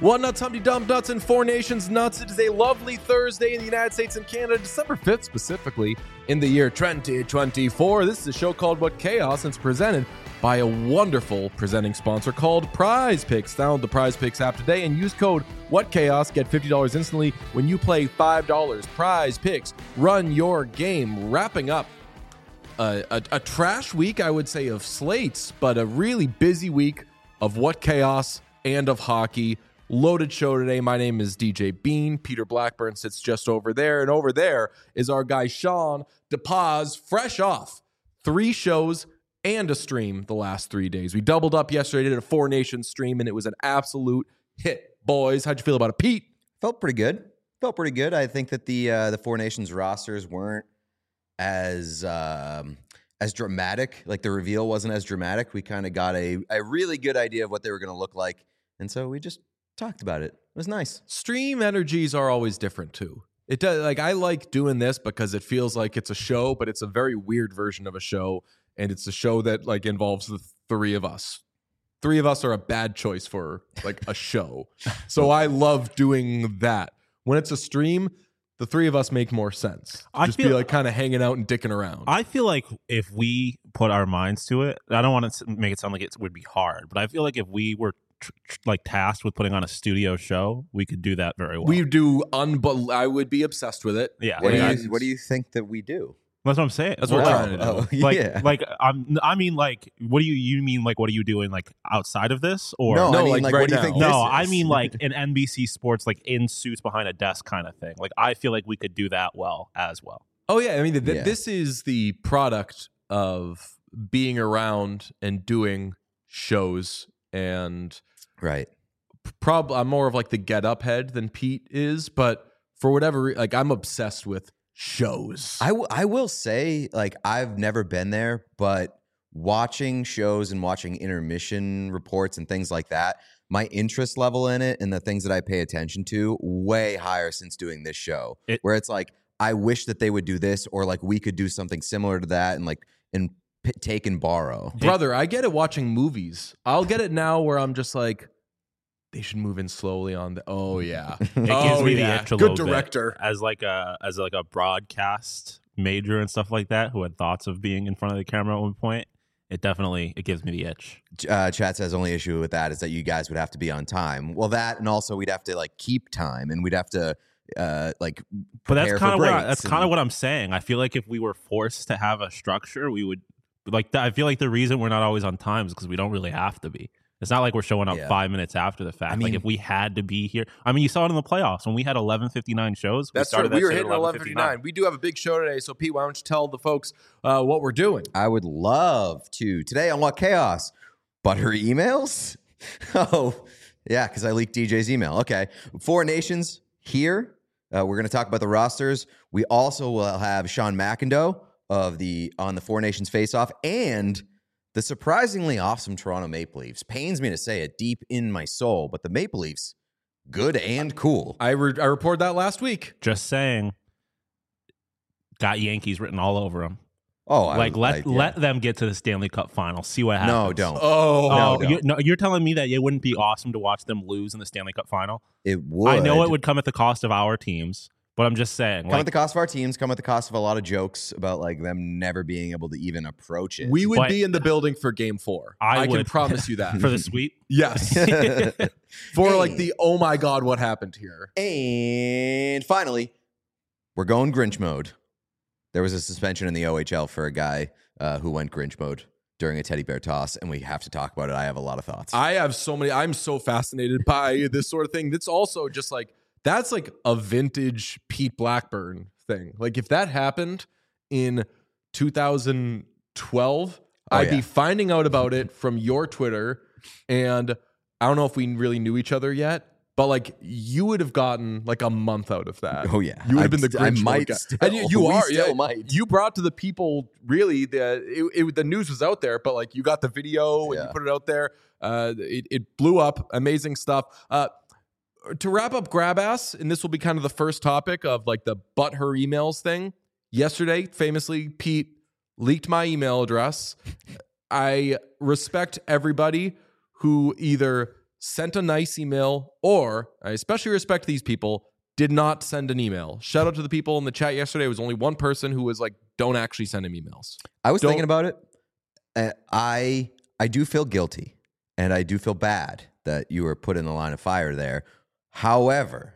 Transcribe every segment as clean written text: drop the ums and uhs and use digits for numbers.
One Nuts, Humpty Dump Nuts, and Four Nations Nuts. It is a lovely Thursday in the United States and Canada, December 5th specifically, in the year 2024. This is a show called What Chaos, and it's presented by a wonderful presenting sponsor called Prize Picks. Download the Prize Picks app today and use code WhatChaos. Get $50 instantly when you play $5. Prize Picks. Run your game. Wrapping up a trash week, I would say, of slates, but a really busy week of What Chaos and of hockey. Loaded show today. My name is DJ Bean. Peter Blackburn sits just over there. And over there is our guy, Sean DePaz, fresh off 3 shows and a stream the last 3 days. We doubled up yesterday, did a Four Nations stream, and it was an absolute hit. Boys, how'd you feel about it, Pete? Felt pretty good. I think that the Four Nations rosters weren't as dramatic. Like, the reveal wasn't as dramatic. We kind of got a really good idea of what they were going to look like. And so we just talked about it. It was nice. Stream energies are always different too. It does. Like, I like doing this because it feels like it's a show, but it's a very weird version of a show, and it's a show that like involves the 3 of us. 3 of us are a bad choice for like a show. So I love doing that. When it's a stream, the 3 of us make more sense. Just be like kind of hanging out and dicking around. I feel like if we put our minds to it, I don't want to make it sound like it would be hard, but I feel like if we were like tasked with putting on a studio show, we could do that very well. We do. I would be obsessed with it. Yeah. What do you think that we do? That's what I'm saying. That's what we're trying to do. I mean, like, what do you mean? Like, what are you doing? Like, outside of this, or no? I mean, like like, right what do you now. think? no? This I is? mean, like an NBC Sports, like in suits behind a desk kind of thing. Like, I feel like we could do that well as well. Oh yeah, I mean, this is the product of being around and doing shows, and right. I'm more of like the get up head than Pete is, but for whatever like I'm obsessed with shows. I will say, like, I've never been there, but watching shows and watching intermission reports and things like that, my interest level in it and the things that I pay attention to way higher since doing this show. Where it's like, I wish that they would do this, or like we could do something similar to that, and like take and borrow. Brother, I get it watching movies. I'll get it now where I'm just like, they should move in slowly on the. Oh yeah, It gives me the itch a little good director. bit. As like a broadcast major and stuff like that, who had thoughts of being in front of the camera at one point. It gives me the itch. Chat says only issue with that is that you guys would have to be on time. Well, that, and also we'd have to like keep time, and we'd have to like. But that's kind of what I'm saying. I feel like if we were forced to have a structure, we would like that. I feel like the reason we're not always on time is because we don't really have to be. It's not like we're showing up 5 minutes after the fact. I mean, like if we had to be here, I mean, you saw it in the playoffs when we had 11:59 shows. That's true. We were hitting 11:59. We do have a big show today, so Pete, why don't you tell the folks what we're doing? I would love to today on What Chaos, but her emails. Oh yeah, because I leaked DJ's email. Okay, Four Nations here. We're going to talk about the rosters. We also will have Sean McIndoe on the Four Nations face-off, and the surprisingly awesome Toronto Maple Leafs. Pains me to say it deep in my soul, but the Maple Leafs, good and cool. I reported that last week. Just saying, got Yankees written all over them. Oh, let them get to the Stanley Cup final. See what happens. No, don't. Don't. You're telling me that it wouldn't be awesome to watch them lose in the Stanley Cup final? It would. I know it would come at the cost of our teams. But I'm just saying. Come at the cost of our teams, come at the cost of a lot of jokes about like them never being able to even approach it. We would be in the building for game 4. I can promise you that. For the sweep? Yes. For like the, oh my God, what happened here? And finally, we're going Grinch mode. There was a suspension in the OHL for a guy who went Grinch mode during a teddy bear toss, and we have to talk about it. I have a lot of thoughts. I'm so fascinated by this sort of thing. That's also just like, that's like a vintage Pete Blackburn thing. Like if that happened in 2012, I'd be finding out about it from your Twitter. And I don't know if we really knew each other yet, but like you would have gotten like a month out of that. Oh yeah. You would have been the Grinch I might guy. still. And you We are. still might. You brought to the people really the news was out there, but like you got the video and you put it out there. It blew up. Amazing stuff. To wrap up Grab Ass, and this will be kind of the first topic of like the but her emails thing. Yesterday, famously, Pete leaked my email address. I respect everybody who either sent a nice email, or I especially respect these people, did not send an email. Shout out to the people in the chat yesterday. It was only one person who was like, don't actually send him emails. I was thinking about it. I do feel guilty, and I do feel bad that you were put in the line of fire there. However,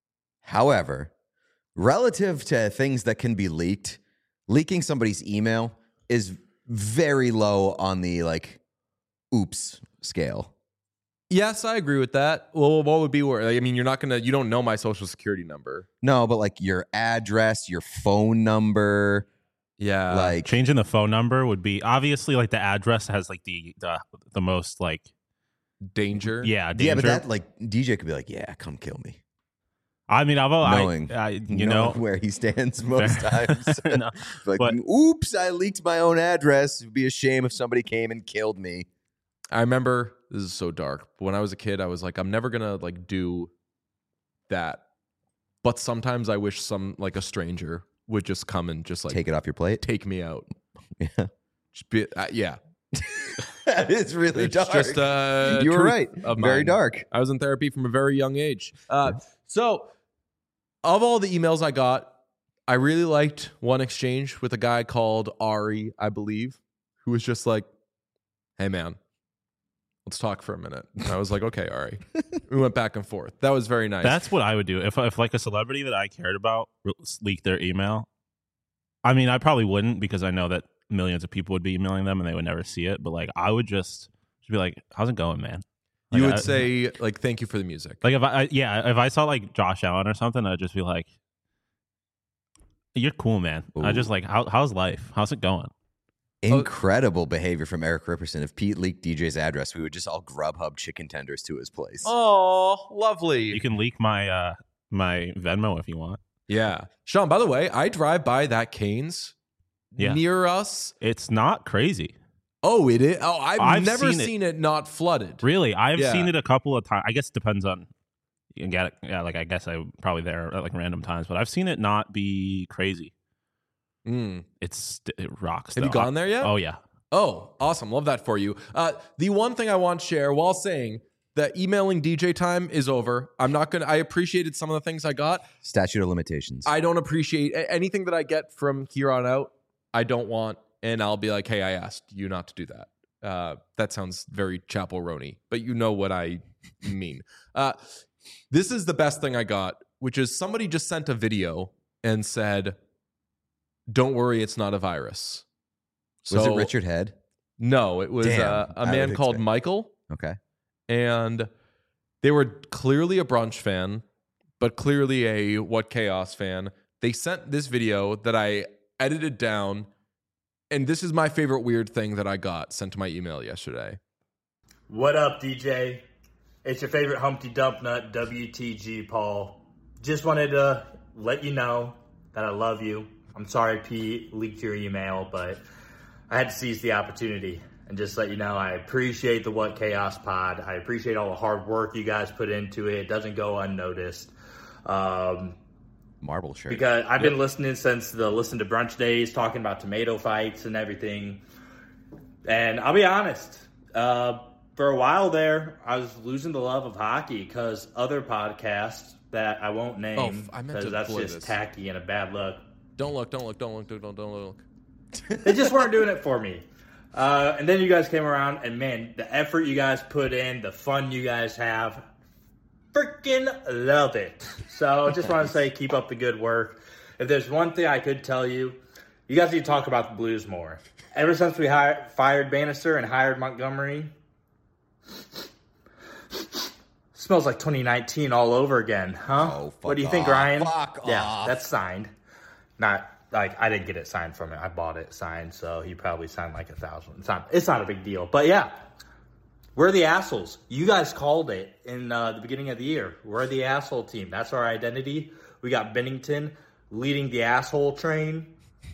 relative to things that can be leaked, leaking somebody's email is very low on the like oops scale. Yes, I agree with that. Well, what would be worse? I mean, you don't know my social security number. No, but like your address, your phone number. Yeah. Like changing the phone number would be obviously like the address has like the most like danger. Yeah. Yeah, but that like DJ could be like, yeah, come kill me. I mean, knowing where he stands most times. No, like, oops, I leaked my own address. It'd be a shame if somebody came and killed me. I remember, this is so dark, but when I was a kid, I was like, I'm never gonna like do that. But sometimes I wish a stranger would just come and just like take it off your plate, take me out. Yeah, just be, yeah. It's really dark. Just you were right. Very dark. I was in therapy from a very young age. So, of all the emails I got, I really liked one exchange with a guy called Ari, I believe, who was just like, "Hey, man, let's talk for a minute." And I was like, "Okay, Ari." We went back and forth. That was very nice. That's what I would do if like a celebrity that I cared about leaked their email. I mean, I probably wouldn't because I know that millions of people would be emailing them and they would never see it. But like, I would just be like, "How's it going, man?" Like, you would say like, "Thank you for the music." Like if I saw like Josh Allen or something, I'd just be like, "You're cool, man." Ooh. I just like, how's life? How's it going? Incredible behavior from Eric Ripperson. If Pete leaked DJ's address, we would just all Grubhub chicken tenders to his place. Oh, lovely. You can leak my my Venmo if you want. Yeah. Sean, by the way, I drive by that Cane's near us. It's not crazy. Oh, it is? Oh, I've never seen it not flooded. Really? I've seen it a couple of times. I guess it depends on, you can get it. Yeah, like I guess I'm probably there at like random times, but I've seen it not be crazy. It rocks. Have you gone there yet? Oh, yeah. Oh, awesome. Love that for you. The one thing I want to share while saying that emailing DJ time is over. I appreciated some of the things I got. Statute of limitations. I don't appreciate anything that I get from here on out. I don't want. And I'll be like, "Hey, I asked you not to do that." That sounds very Chapel Roney, but you know what I mean. This is the best thing I got, which is somebody just sent a video and said, "Don't worry, it's not a virus." Was it Richard Head? No, it was a man called Michael. Okay. And they were clearly a brunch fan, but clearly a What Chaos fan. They sent this video that I edited down. And this is my favorite weird thing that I got sent to my email yesterday. What up, DJ? It's your favorite Humpty Dump Nut, WTG, Paul. Just wanted to let you know that I love you. I'm sorry Pete leaked your email, but I had to seize the opportunity and just let you know I appreciate the What Chaos pod. I appreciate all the hard work you guys put into it. It doesn't go unnoticed. Marble shirt. Because I've been listening since the Listen to Brunch days, talking about tomato fights and everything. And I'll be honest, for a while there, I was losing the love of hockey because other podcasts that I won't name, because that's just tacky and a bad look. Don't look. They just weren't doing it for me. And then you guys came around, and man, the effort you guys put in, the fun you guys have, freaking love it. So I just want to say, keep up the good work. If there's one thing I could tell you, you guys need to talk about the Blues more. Ever since we fired Bannister and hired Montgomery, smells like 2019 all over again, huh? Oh, what do you think, Ryan? Fuck yeah, off. That's signed. Not like I didn't get it signed from it. I bought it signed, so he probably signed like 1,000. It's not a big deal. But yeah, we're the assholes. You guys called it in the beginning of the year. We're the asshole team. That's our identity. We got Bennington leading the asshole train.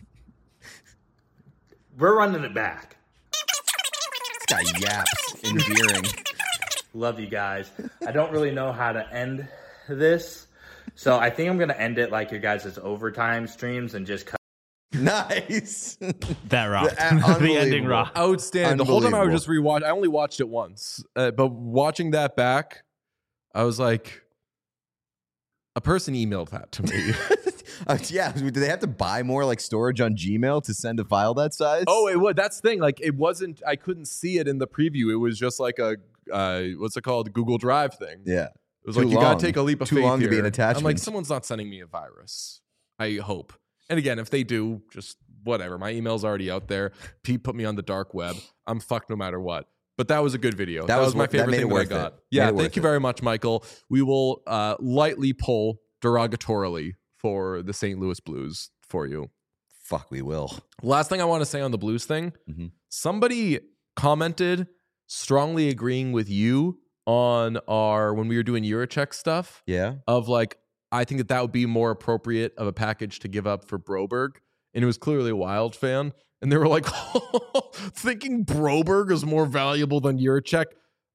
We're running it back. This guy yaps. Endearing. Love you guys. I don't really know how to end this, so I think I'm going to end it like your guys' overtime streams and just cut Nice. That rocked. The ending rocked. Outstanding. The whole time I was just rewatch. I only watched it once, but watching that back, I was like, a person emailed that to me. Yeah, do they have to buy more like storage on Gmail to send a file that size? Oh, it was. That's the thing. Like, it wasn't. I couldn't see it in the preview. It was just like a what's it called? Google Drive thing. Yeah, it was like, you gotta take a leap of faith. Too long here. to be an attachment. I'm like, someone's not sending me a virus. I hope. And again, if they do, just whatever. My email's already out there. Pete put me on the dark web. I'm fucked no matter what. But that was a good video. That was my favorite thing that I got. Yeah, thank you very much, Michael. We will lightly pull derogatorily for the St. Louis Blues for you. Fuck, we will. Last thing I want to say on the Blues thing. Somebody commented strongly agreeing with you on when we were doing Eurocheck stuff. Yeah. Of like, I think that would be more appropriate of a package to give up for Broberg. And it was clearly a Wild fan. And they were like, thinking Broberg is more valuable than Jiricek.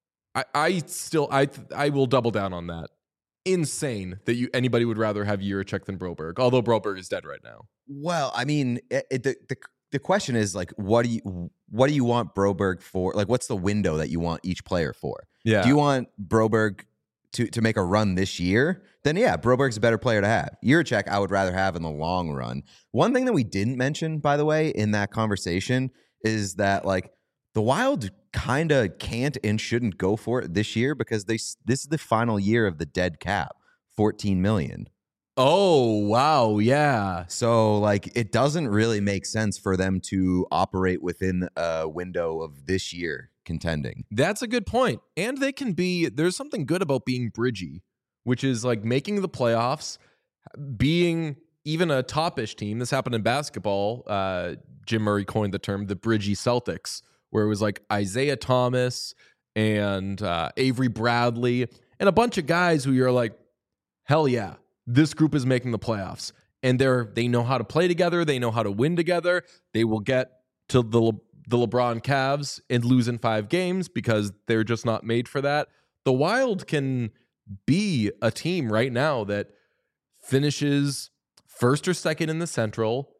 I will double down on that. Insane that anybody would rather have Jiricek than Broberg, although Broberg is dead right now. Well, I mean, the question is like, what do you want Broberg for? Like, what's the window that you want each player for? Yeah. Do you want Broberg to make a run this year? Then yeah, Broberg's a better player to have. Jiricek, I would rather have in the long run. One thing that we didn't mention, by the way, in that conversation is that like the Wild kind of can't and shouldn't go for it this year because this is the final year of the dead cap, $14 million. Oh, wow. Yeah. So like it doesn't really make sense for them to operate within a window of this year contending. That's a good point. And there's something good about being bridgy, which is like making the playoffs, being even a top-ish team. This happened in basketball. Jim Murray coined the term the bridgy Celtics, where it was like Isaiah Thomas and Avery Bradley and a bunch of guys who you're like, hell yeah, this group is making the playoffs. And they know how to play together. They know how to win together. They will get to the LeBron Cavs and lose in 5 games because they're just not made for that. The Wild can be a team right now that finishes first or second in the Central,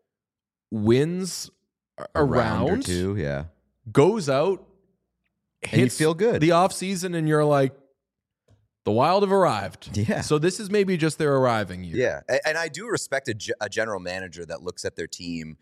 wins a round or two, yeah, goes out, hits and you feel good the offseason, and you're like, the Wild have arrived. Yeah. So this is maybe just their arriving year. Yeah, and I do respect a general manager that looks at their team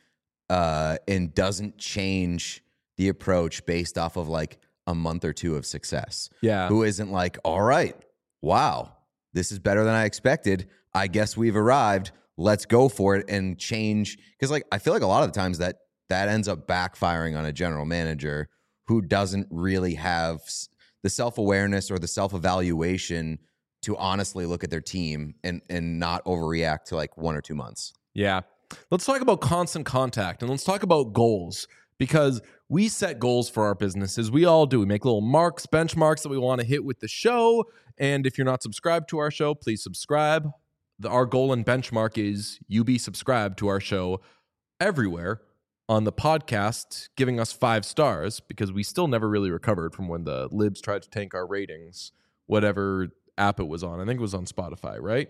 and doesn't change the approach based off of like a month or two of success. Yeah. Who isn't like, all right, wow, this is better than I expected. I guess we've arrived. Let's go for it and change. Because like I feel like a lot of the times that ends up backfiring on a general manager who doesn't really have the self-awareness or the self-evaluation to honestly look at their team and not overreact to like 1 or 2 months. Yeah. Let's talk about constant contact and let's talk about goals, because we set goals for our businesses. We all do. We make little marks, benchmarks that we want to hit with the show. And if you're not subscribed to our show, please subscribe. Our goal and benchmark is you be subscribed to our show everywhere on the podcast, giving us 5 stars, because we still never really recovered from when the libs tried to tank our ratings, whatever app it was on. I think it was on Spotify, right?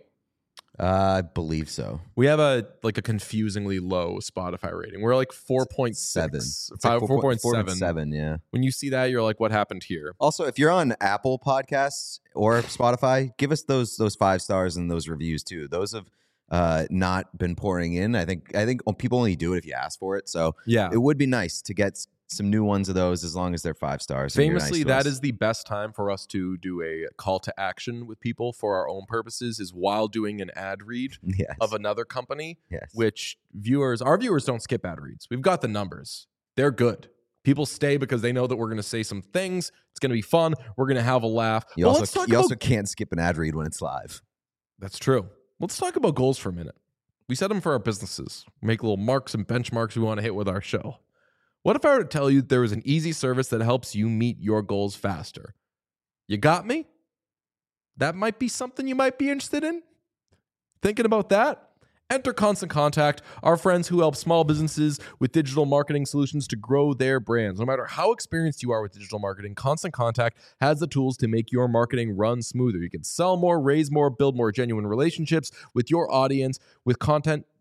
I believe so. We have a confusingly low Spotify rating. We're like 4.7. It's like 4.7, yeah. When you see that, you're like, what happened here? Also, if you're on Apple Podcasts or Spotify, give us those 5 stars and those reviews too. Those have not been pouring in. I think people only do it if you ask for it. So yeah, it would be nice to get some new ones of those as long as they're 5 stars. Famously, that is the best time for us to do a call to action with people for our own purposes, is while doing an ad read of another company, which our viewers don't skip ad reads. We've got the numbers. They're good. People stay because they know that we're going to say some things. It's going to be fun. We're going to have a laugh. You also can't skip an ad read when it's live. That's true. Let's talk about goals for a minute. We set them for our businesses. Make little marks and benchmarks we want to hit with our show. What if I were to tell you there was an easy service that helps you meet your goals faster? You got me? That might be something you might be interested in. Thinking about that? Enter Constant Contact, our friends who help small businesses with digital marketing solutions to grow their brands. No matter how experienced you are with digital marketing, Constant Contact has the tools to make your marketing run smoother. You can sell more, raise more, build more genuine relationships with your audience with Constant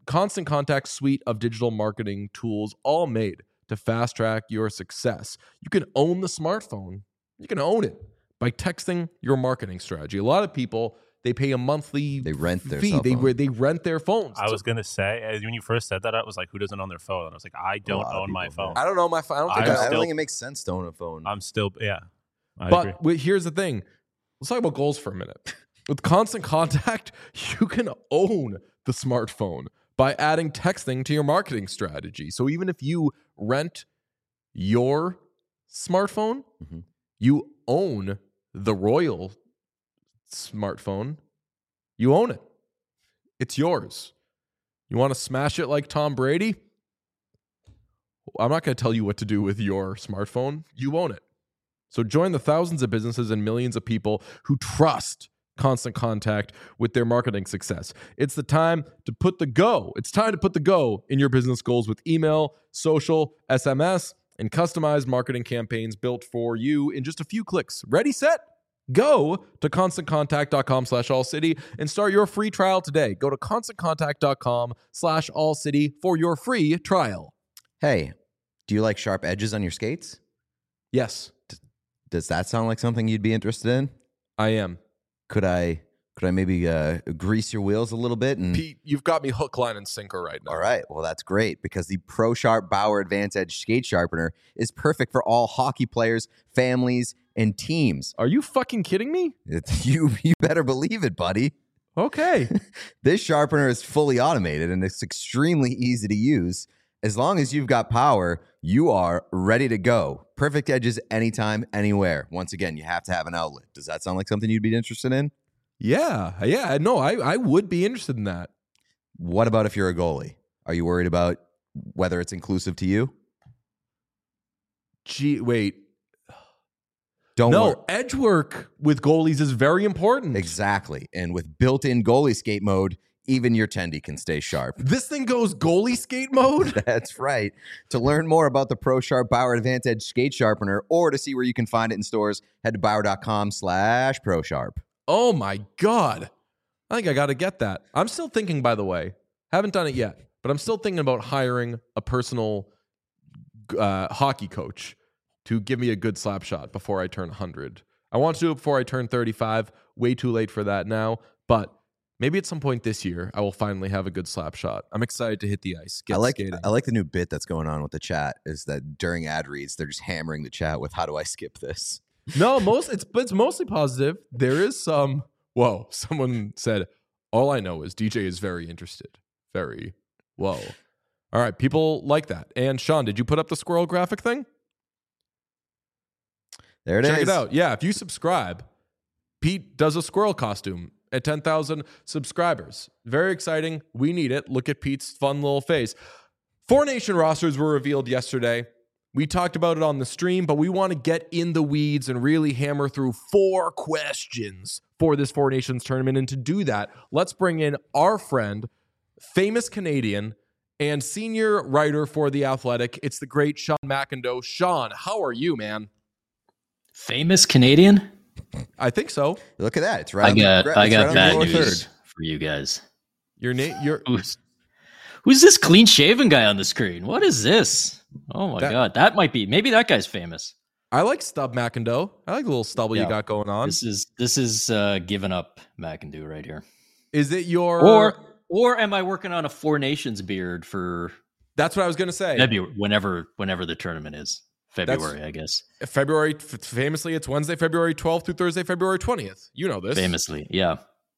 Constant Contact's suite of digital marketing tools, all made to fast track your success. You can own the smartphone. You can own it by texting your marketing strategy. A lot of people, they pay a monthly They rent their fee. cell phone. They rent their phones. I was going to say, when you first said that, I was like, who doesn't own their phone? And I was like, I don't own my phone. I don't own my phone. I don't think it makes sense to own a phone. I'm still, yeah. But here's the thing. Let's talk about goals for a minute. With Constant Contact, you can own the smartphone by adding texting to your marketing strategy. So even if you rent your smartphone, you own the Royal smartphone. You own it. It's yours. You want to smash it like Tom Brady? I'm not going to tell you what to do with your smartphone. You own it. So join the thousands of businesses and millions of people who trust Constant Contact with their marketing success. It's time to put the go in your business goals with email, social, SMS, and customized marketing campaigns built for you in just a few clicks. Ready, set, go to ConstantContact.com/AllCity and start your free trial today. Go to ConstantContact.com/AllCity for your free trial. Hey, do you like sharp edges on your skates? Yes. Does that sound like something you'd be interested in? I am. Could I maybe grease your wheels a little bit? And Pete, you've got me hook, line, and sinker right now. All right. Well, that's great because the ProSharp Bauer Advanced Edge Skate Sharpener is perfect for all hockey players, families, and teams. Are you fucking kidding me? You better believe it, buddy. Okay. This sharpener is fully automated and it's extremely easy to use. As long as you've got power, you are ready to go. Perfect edges anytime, anywhere. Once again, you have to have an outlet. Does that sound like something you'd be interested in? Yeah. No, I would be interested in that. What about if you're a goalie? Are you worried about whether it's inclusive to you? Gee, wait. Don't worry. Edge work with goalies is very important. Exactly. And with built-in goalie skate mode, even your tendy can stay sharp. This thing goes goalie skate mode? That's right. To learn more about the ProSharp Bauer Advanced Edge Skate Sharpener or to see where you can find it in stores, head to Bauer.com/ProSharp. Oh my God. I think I got to get that. I'm still thinking, by the way, haven't done it yet, but I'm still thinking about hiring a personal hockey coach to give me a good slap shot before I turn 100. I want to do it before I turn 35. Way too late for that now, but maybe at some point this year, I will finally have a good slap shot. I'm excited to hit the ice, skating. I like the new bit that's going on with the chat is that during ad reads, they're just hammering the chat with, how do I skip this? No, it's mostly positive. There is some, someone said, all I know is DJ is very interested. Very, whoa. All right, people like that. And Sean, did you put up the squirrel graphic thing? There it is. Check it out. Yeah, if you subscribe, Pete does a squirrel costume at 10,000 subscribers. Very exciting. We need it. Look at Pete's fun little face. 4 Nation rosters were revealed yesterday. We talked about it on the stream, but we want to get in the weeds and really hammer through 4 questions for this 4 Nations tournament. And to do that, let's bring in our friend, famous Canadian, and senior writer for The Athletic. It's the great Sean McIndoe. Sean, how are you, man? Famous Canadian? I think so. Look at that. It's right. I got bad news for you guys. Your name? Who's this clean-shaven guy on the screen? What is this? Oh my God, maybe that guy's famous. I like Stub McIndoe. I like the little stubble you got going on. This is given up McIndoe right here. Is it your or am I working on a 4 Nations beard for? That's what I was going to say. February, whenever the tournament is. February, I guess. February, famously, it's Wednesday, February 12th through Thursday, February 20th. You know this. Famously, yeah.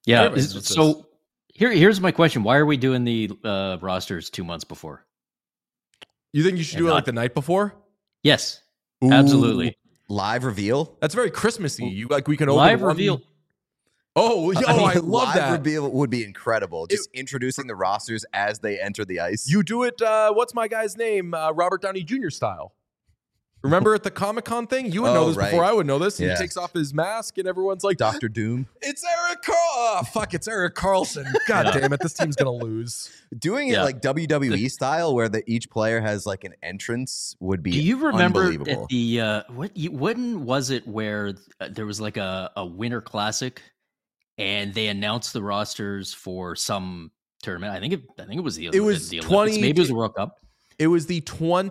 So here's my question. Why are we doing the rosters 2 months before? You think you should do it like the night before? Yes, Ooh. Absolutely. Live reveal? That's very Christmassy. We can open live reveal. Oh, I love that. Live reveal would be incredible. Just introducing the rosters as they enter the ice. You do it, what's my guy's name? Robert Downey Jr. style. Remember at the Comic-Con thing? You would know this before I would know this. And he takes off his mask and everyone's like, Dr. Doom. It's Eric it's Eric Carlson. God damn it. This team's going to lose. Doing it like WWE style where each player has like an entrance would be Do you remember unbelievable. At the, when was it where there was like a Winter Classic and they announced the rosters for some tournament. I think it was the it was the 20. Maybe it was the World Cup. It was the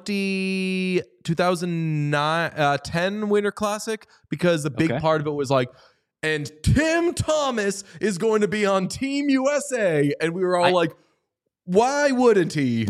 2010 Winter Classic, because the big part of it was like, and Tim Thomas is going to be on Team USA, and we were all like, why wouldn't he?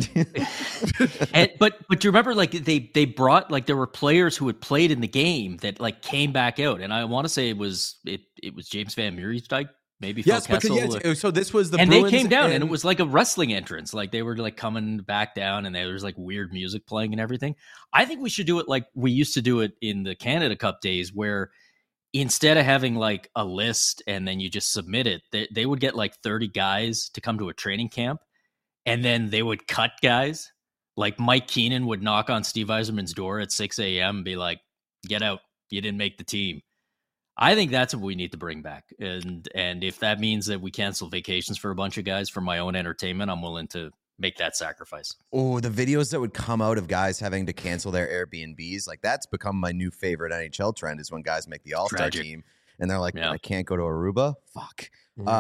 But do you remember, like, they brought, like, there were players who had played in the game that, like, came back out, and I want to say it was James Van Mierendijk. Maybe Phil Kessel. So this was the and Bruins, they came down and it was like a wrestling entrance. Like they were like coming back down and there was like weird music playing and everything. I think we should do it like we used to do it in the Canada Cup days, where instead of having like a list and then you just submit it, they would get like 30 guys to come to a training camp, and then they would cut guys. Like Mike Keenan would knock on Steve Yzerman's door at 6 a.m. and be like, "Get out, you didn't make the team." I think that's what we need to bring back. And if that means that we cancel vacations for a bunch of guys for my own entertainment, I'm willing to make that sacrifice. Oh, the videos that would come out of guys having to cancel their Airbnbs, like that's become my new favorite NHL trend, is when guys make the All-Star team and they're like, I can't go to Aruba? Fuck.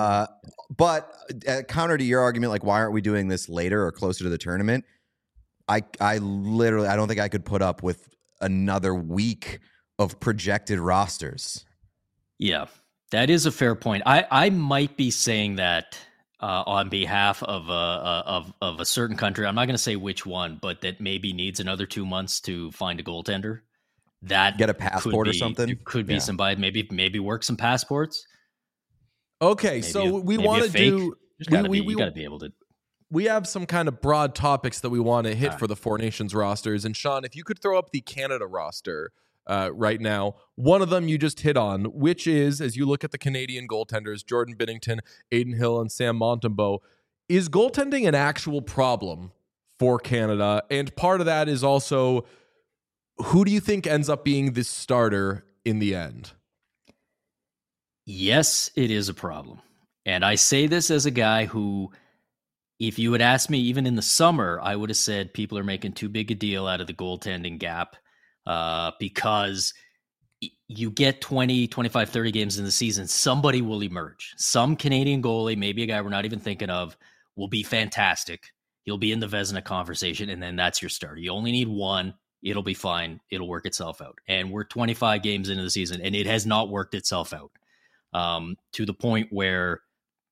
But counter to your argument, like, why aren't we doing this later or closer to the tournament? I literally, I don't think I could put up with another week of projected rosters. Yeah, that is a fair point. I might be saying that on behalf of a certain country. I'm not going to say which one, but that maybe needs another 2 months to find a goaltender. That get a passport or something. Could be somebody. Maybe work some passports. Okay, maybe so we want to do. You got to be able to. We have some kind of broad topics that we want to hit for the Four Nations rosters. And Sean, if you could throw up the Canada roster right now, one of them you just hit on, which is, as you look at the Canadian goaltenders, Jordan Binnington, Adin Hill, and Sam Montembeault, is goaltending an actual problem for Canada? And part of that is also, who do you think ends up being the starter in the end? Yes, it is a problem. And I say this as a guy who, if you had asked me even in the summer, I would have said people are making too big a deal out of the goaltending gap. Because you get 20, 25, 30 games in the season, somebody will emerge. Some Canadian goalie, maybe a guy we're not even thinking of, will be fantastic. He'll be in the Vezina conversation, and then that's your starter. You only need one. It'll be fine. It'll work itself out. And we're 25 games into the season, and it has not worked itself out to the point where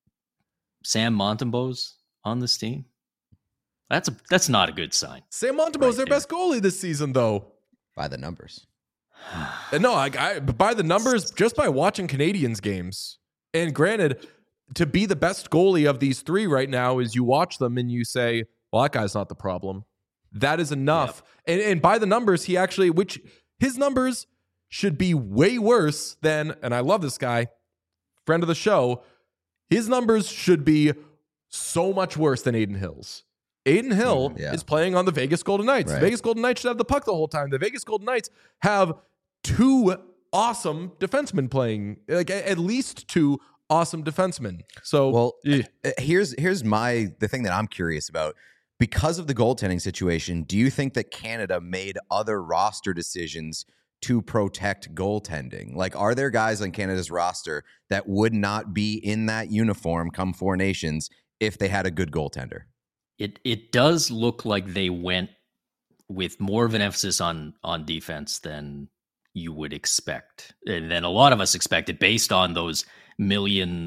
Sam Montembeault's on this team. That's not a good sign. Sam Montembeault's their best goalie this season, though. By the numbers. No, by the numbers, just by watching Canadians games. And granted, to be the best goalie of these three right now is you watch them and you say, well, that guy's not the problem. That is enough. Yep. And by the numbers, which his numbers should be way worse than, and I love this guy, friend of the show, his numbers should be so much worse than Adin Hill's. Adin Hill is playing on the Vegas Golden Knights. Right. The Vegas Golden Knights should have the puck the whole time. The Vegas Golden Knights have two awesome defensemen playing, like at least two awesome defensemen. So, here's the thing that I'm curious about. Because of the goaltending situation, do you think that Canada made other roster decisions to protect goaltending? Like, are there guys on Canada's roster that would not be in that uniform come Four Nations if they had a good goaltender? It does look like they went with more of an emphasis on defense than you would expect, and then a lot of us expected based on those million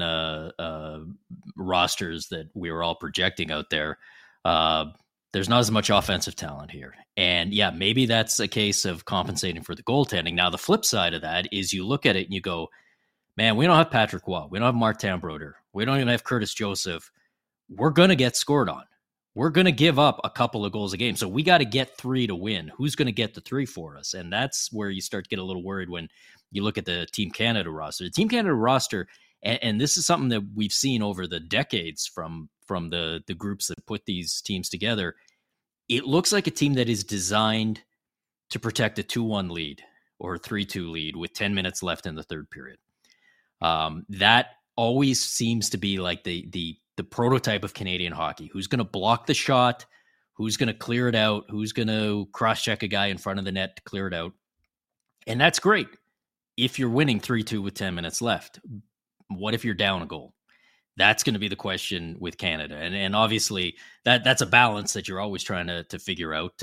rosters that we were all projecting out there. There's not as much offensive talent here, and maybe that's a case of compensating for the goaltending. Now, the flip side of that is you look at it and you go, man, we don't have Patrick Waugh, we don't have Martin Brodeur, we don't even have Curtis Joseph. We're gonna get scored on. We're going to give up a couple of goals a game. So we got to get 3 to win. Who's going to get the 3 for us? And that's where you start to get a little worried when you look at the Team Canada roster. The Team Canada roster, and this is something that we've seen over the decades from the groups that put these teams together. It looks like a team that is designed to protect a 2-1 lead or a 3-2 lead with 10 minutes left in the third period. That always seems to be like the prototype of Canadian hockey. Who's going to block the shot? Who's going to clear it out? Who's going to cross-check a guy in front of the net to clear it out? And that's great if you're winning 3-2 with 10 minutes left. What if you're down a goal? That's going to be the question with Canada. And obviously that's a balance that you're always trying to figure out.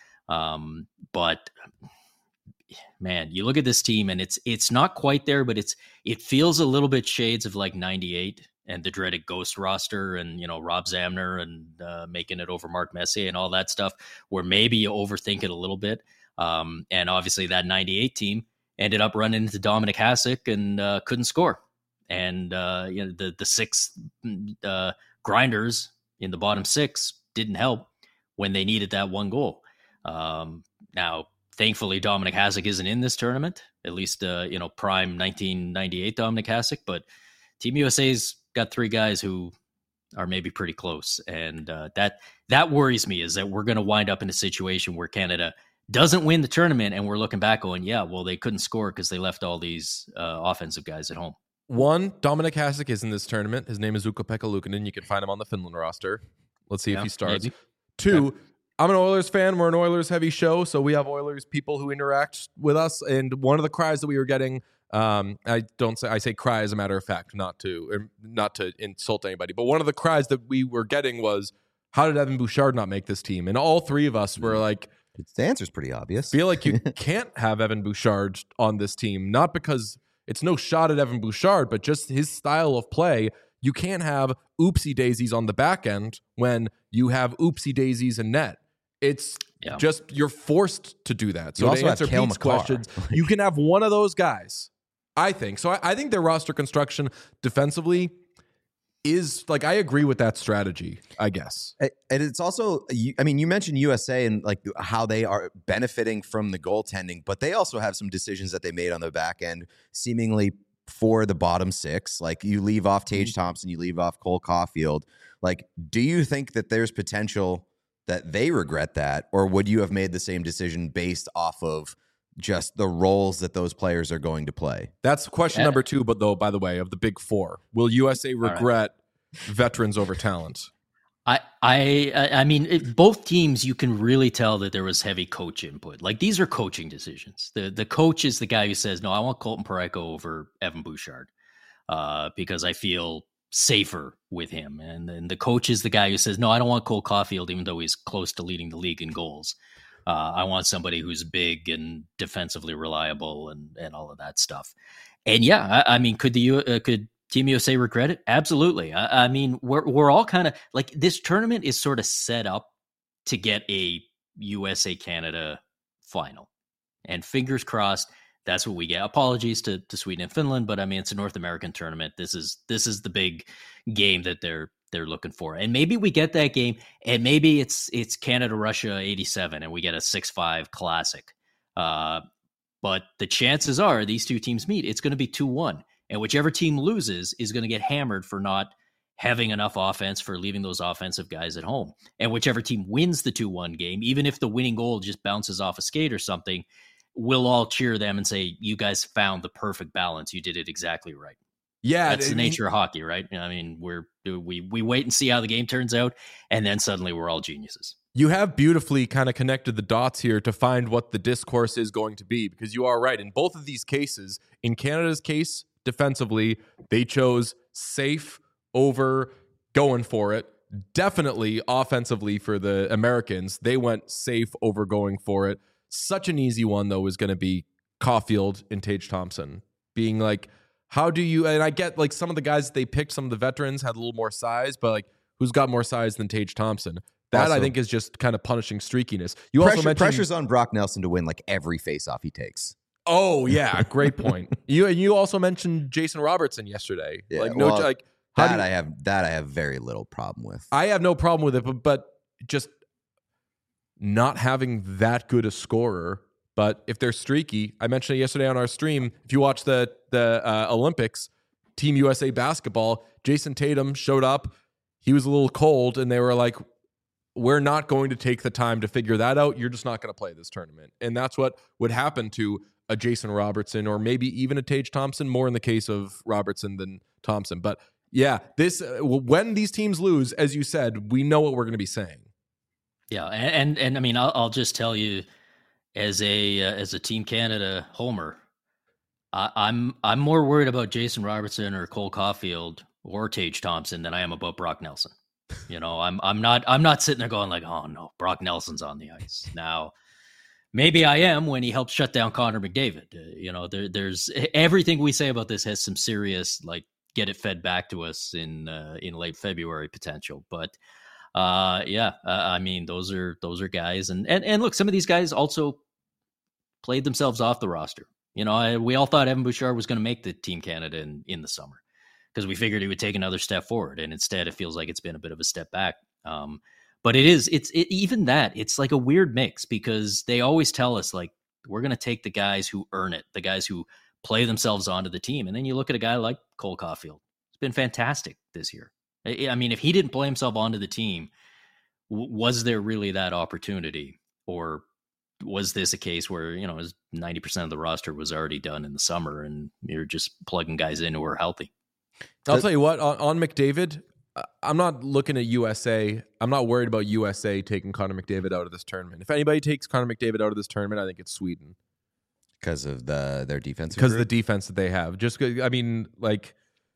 But man, you look at this team and it's not quite there, but it feels a little bit shades of like 98 and the dreaded ghost roster and, you know, Rob Zamner and making it over Mark Messier and all that stuff, where maybe you overthink it a little bit. And obviously that 98 team ended up running into Dominic Hasek and couldn't score. And you know, the six grinders in the bottom six didn't help when they needed that one goal. Now, thankfully, Dominic Hasek isn't in this tournament, at least, you know, prime 1998 Dominic Hasek. But Team USA's got three guys who are maybe pretty close. And that worries me, is that we're going to wind up in a situation where Canada doesn't win the tournament and we're looking back going, yeah, well, they couldn't score because they left all these offensive guys at home. One, Dominic Hasek is in this tournament. His name is Ukko-Pekka Luukkonen. You can find him on the Finland roster. Let's see if he starts. Maybe. Two, I'm an Oilers fan. We're an Oilers heavy show, so we have Oilers people who interact with us. And one of the cries that we were getting, I say cry as a matter of fact, not to insult anybody, but one of the cries that we were getting was, how did Evan Bouchard not make this team? And all three of us were like, the answer's pretty obvious. Feel like you can't have Evan Bouchard on this team, not because it's no shot at Evan Bouchard, but just his style of play. You can't have oopsie daisies on the back end when you have oopsie daisies in net. It's just, you're forced to do that. So you also to answer have Pete's questions, you can have one of those guys, I think. So I think their roster construction defensively is, like, I agree with that strategy, I guess. And it's also, I mean, you mentioned USA and like how they are benefiting from the goaltending, but they also have some decisions that they made on the back end, seemingly for the bottom six. Like, you leave off Tage Thompson, you leave off Cole Caulfield. Like, do you think that there's potential that they regret that, or would you have made the same decision based off of just the roles that those players are going to play? That's question number two, but though, by the way, of the big four, will USA regret veterans over talent? I mean, both teams, you can really tell that there was heavy coach input. Like, these are coaching decisions. The coach is the guy who says, no, I want Colton Parayko over Evan Bouchard because I feel safer with him. And then the coach is the guy who says, no, I don't want Cole Caulfield, even though he's close to leading the league in goals. I want somebody who's big and defensively reliable and all of that stuff. And yeah, I mean, could Team USA regret it? Absolutely. I mean, we're all kind of like, this tournament is sort of set up to get a USA Canada final, and fingers crossed that's what we get. Apologies to Sweden and Finland, but I mean, it's a North American tournament. This is the big game that they're looking for. And maybe we get that game, and maybe it's Canada-Russia 87 and we get a 6-5 classic. But the chances are these two teams meet, it's going to be 2-1. And whichever team loses is going to get hammered for not having enough offense, for leaving those offensive guys at home. And whichever team wins the 2-1 game, even if the winning goal just bounces off a skate or something, we'll all cheer them and say, you guys found the perfect balance. You did it exactly right. Yeah, that's the nature of hockey, right? I mean, we wait and see how the game turns out, and then suddenly we're all geniuses. You have beautifully kind of connected the dots here to find what the discourse is going to be, because you are right. In both of these cases, in Canada's case, defensively, they chose safe over going for it. Definitely offensively for the Americans, they went safe over going for it. Such an easy one, though, is going to be Caulfield and Tage Thompson. Being like, how do you, and I get like some of the guys they picked, some of the veterans had a little more size, but like, who's got more size than Tage Thompson? That also, I think, is just kind of punishing streakiness. You also mentioned pressure's on Brock Nelson to win like every faceoff he takes. Oh yeah, great point. You also mentioned Jason Robertson yesterday. Yeah, like I have very little problem with. I have no problem with it, but just not having that good a scorer. But if they're streaky, I mentioned it yesterday on our stream. If you watch the Olympics, Team USA basketball, Jason Tatum showed up. He was a little cold, and they were like, we're not going to take the time to figure that out. You're just not going to play this tournament. And that's what would happen to a Jason Robertson, or maybe even a Tage Thompson, more in the case of Robertson than Thompson. But yeah, this when these teams lose, as you said, we know what we're going to be saying. Yeah, and I mean, I'll just tell you, as a Team Canada homer, I'm more worried about Jason Robertson or Cole Caulfield or Tage Thompson than I am about Brock Nelson. I'm not sitting there going like, oh no, Brock Nelson's on the ice now. Maybe I am when he helped shut down Connor McDavid. There's everything we say about this has some serious, like, get it fed back to us in late February potential. But I mean, those are guys, and look, some of these guys also played themselves off the roster. We all thought Evan Bouchard was going to make the Team Canada in the summer because we figured he would take another step forward, and instead it feels like it's been a bit of a step back. But it's like a weird mix because they always tell us, like, we're going to take the guys who earn it, the guys who play themselves onto the team. And then you look at a guy like Cole Caulfield. It's been fantastic this year. I mean, if he didn't play himself onto the team, was there really that opportunity? Or was this a case where, 90% of the roster was already done in the summer and you're just plugging guys in who are healthy? I'll tell you what, on McDavid, I'm not looking at USA. I'm not worried about USA taking Connor McDavid out of this tournament. If anybody takes Connor McDavid out of this tournament, I think it's Sweden. Because of their defense? Because of the defense that they have. Like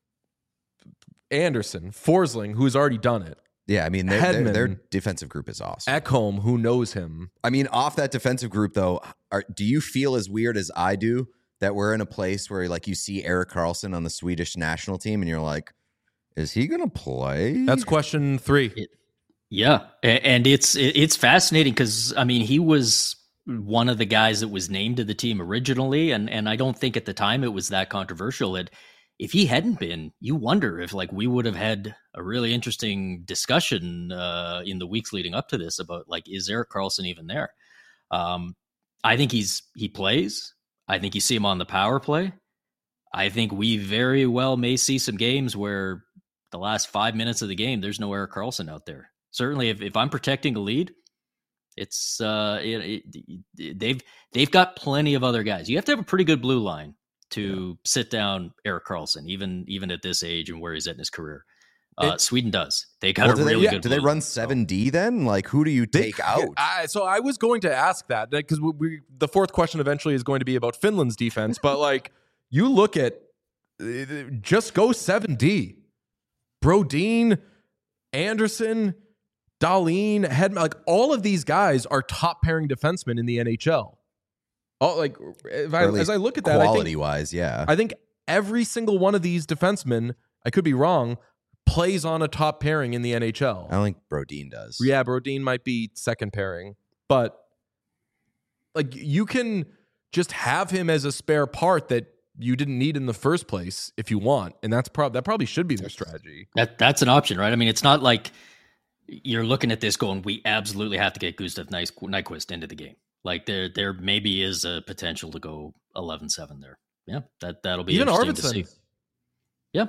Anderson, Forsling, who's already done it. Yeah, I mean, their defensive group is awesome. Ekholm, who knows him. I mean, off that defensive group, though, do you feel as weird as I do that we're in a place where, like, you see Erik Karlsson on the Swedish national team and you're like, is he going to play? That's question 3. Yeah, and it's fascinating because, I mean, he was one of the guys that was named to the team originally, and I don't think at the time it was that controversial. If he hadn't been, you wonder if, like, we would have had a really interesting discussion in the weeks leading up to this about, like, is Erik Karlsson even there? I think he plays. I think you see him on the power play. I think we very well may see some games where the last 5 minutes of the game, there's no Erik Karlsson out there. Certainly, if I'm protecting a lead, it's they've got plenty of other guys. You have to have a pretty good blue line to sit down Erik Karlsson, even at this age and where he's at in his career. Sweden does. They got a really good. Do they run 7D then? Like, who do you take out? So I was going to ask that because the fourth question eventually is going to be about Finland's defense. But, like, you look at just go 7D. Brodin, Anderson, Dahlin, Hedman, like, all of these guys are top pairing defensemen in the NHL. As I look at that, quality-wise, yeah. I think every single one of these defensemen, I could be wrong, plays on a top pairing in the NHL. I don't think Brodin does. Yeah, Brodin might be second pairing. But, like, you can just have him as a spare part that you didn't need in the first place if you want. And that probably should be their strategy. That's an option, right? I mean, it's not like you're looking at this going, we absolutely have to get Gustav Nyquist into the game. Like, there maybe is a potential to go 11-7 there. Yeah, that'll be even interesting Arvidsson. to see. Yeah.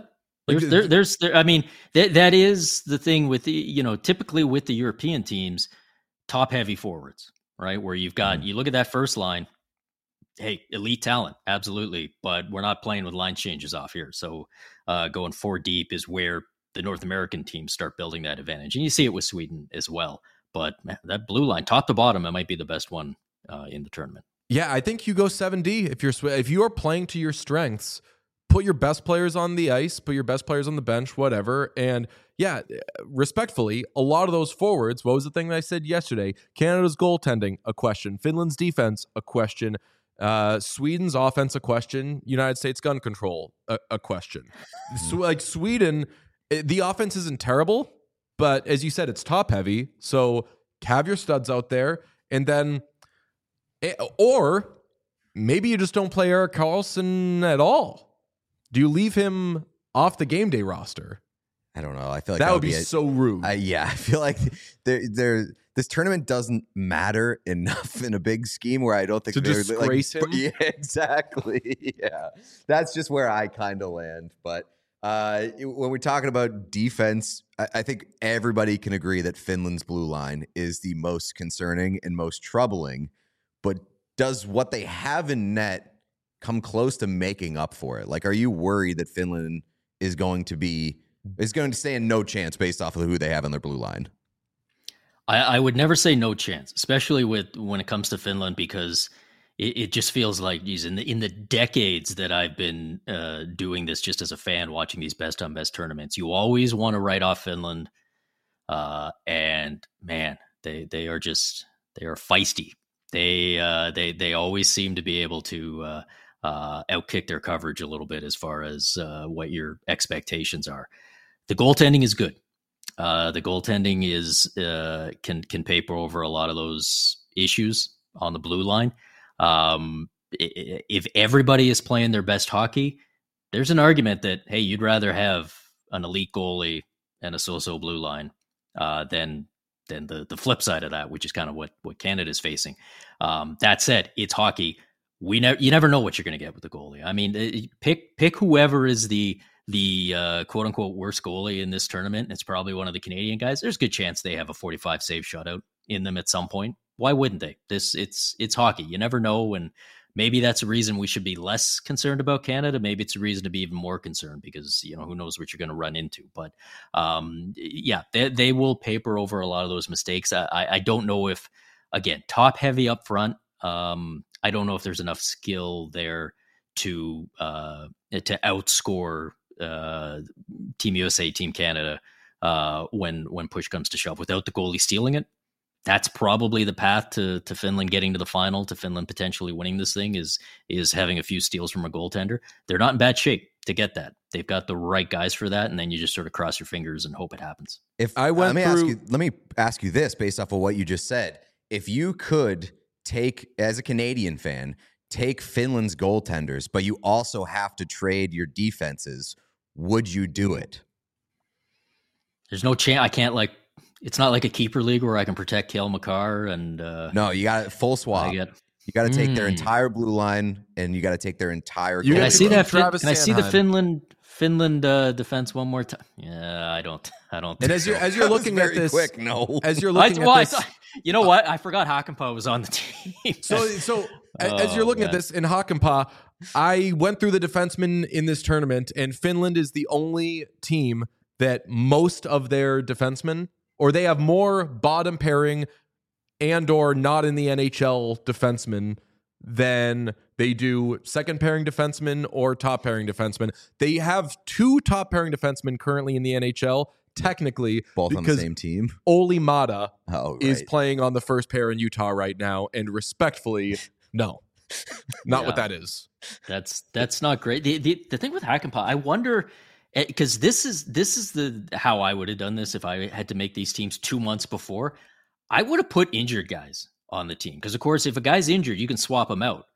I mean, that is the thing with typically with the European teams, top heavy forwards, right? Where you've got, you look at that first line, hey, elite talent, absolutely, but we're not playing with line changes off here. So going 4 deep is where the North American teams start building that advantage. And you see it with Sweden as well. But man, that blue line, top to bottom, it might be the best one in the tournament. Yeah, I think you go 7D. If you are playing to your strengths, put your best players on the ice, put your best players on the bench, whatever. And yeah, respectfully, a lot of those forwards, what was the thing that I said yesterday? Canada's goaltending, a question. Finland's defense, a question. Sweden's offense, a question. United States gun control, a question. So, like, Sweden, the offense isn't terrible, but as you said, it's top heavy. So have your studs out there, and then, or maybe you just don't play Erik Karlsson at all. Do you leave him off the game day roster? I don't know. I feel like that would be so rude. Yeah, I feel like this tournament doesn't matter enough in a big scheme where I don't think to disgrace him. Yeah, exactly. Yeah, that's just where I kind of land. But when we're talking about defense, I think everybody can agree that Finland's blue line is the most concerning and most troubling. But does what they have in net come close to making up for it? Like, are you worried that Finland is going to stand no chance based off of who they have on their blue line? I would never say no chance, especially when it comes to Finland, because it just feels like, geez, in the decades that I've been doing this just as a fan, watching these best on best tournaments, you always want to write off Finland. And man, they are feisty. They always seem to be able to outkick their coverage a little bit as far as what your expectations are. The goaltending is good. The goaltending is can paper over a lot of those issues on the blue line. If everybody is playing their best hockey, there's an argument that, hey, you'd rather have an elite goalie and a so-so blue line than the flip side of that, which is kind of what Canada is facing. That said, it's hockey. You never know what you're going to get with the goalie. I mean, pick whoever is the quote unquote worst goalie in this tournament. It's probably one of the Canadian guys. There's a good chance they have a 45 save shutout in them at some point. Why wouldn't they? It's hockey. You never know. And maybe that's a reason we should be less concerned about Canada. Maybe it's a reason to be even more concerned because, who knows what you're going to run into. But yeah, they will paper over a lot of those mistakes. I don't know if, again, top heavy up front. I don't know if there's enough skill there to outscore Team USA, Team Canada when push comes to shove without the goalie stealing it. That's probably the path to Finland getting to the final, to Finland potentially winning this thing is having a few steals from a goaltender. They're not in bad shape to get that. They've got the right guys for that, and then you just sort of cross your fingers and hope it happens. Let me ask you this based off of what you just said. If you could take, as a Canadian fan, take Finland's goaltenders, but you also have to trade your defenses, would you do it? There's no chance. I can't it's not like a keeper league where I can protect Cale Makar and no, you got full swap. You got to take their entire blue line, and you got to take their entire. Can I see that? Can I see the Finland defense one more time? Yeah, I don't. And as you're looking at this, quick, no. As you're looking at this, you know what? I forgot Hakanpää was on the team. So as you're looking at this in Hakanpää, I went through the defensemen in this tournament, and Finland is the only team that most of their defensemen, or they have more bottom pairing and or not in the NHL defensemen than they do second pairing defensemen or top pairing defensemen. They have 2 top pairing defensemen currently in the NHL, technically, both on the same team. Olli Mata is playing on the first pair in Utah right now, and respectfully, no, not what that is. That's not great. The thing with Hakanpää, I wonder, because this is how I would have done this if I had to make these teams 2 months before. I would have put injured guys on the team because, of course, if a guy's injured, you can swap him out.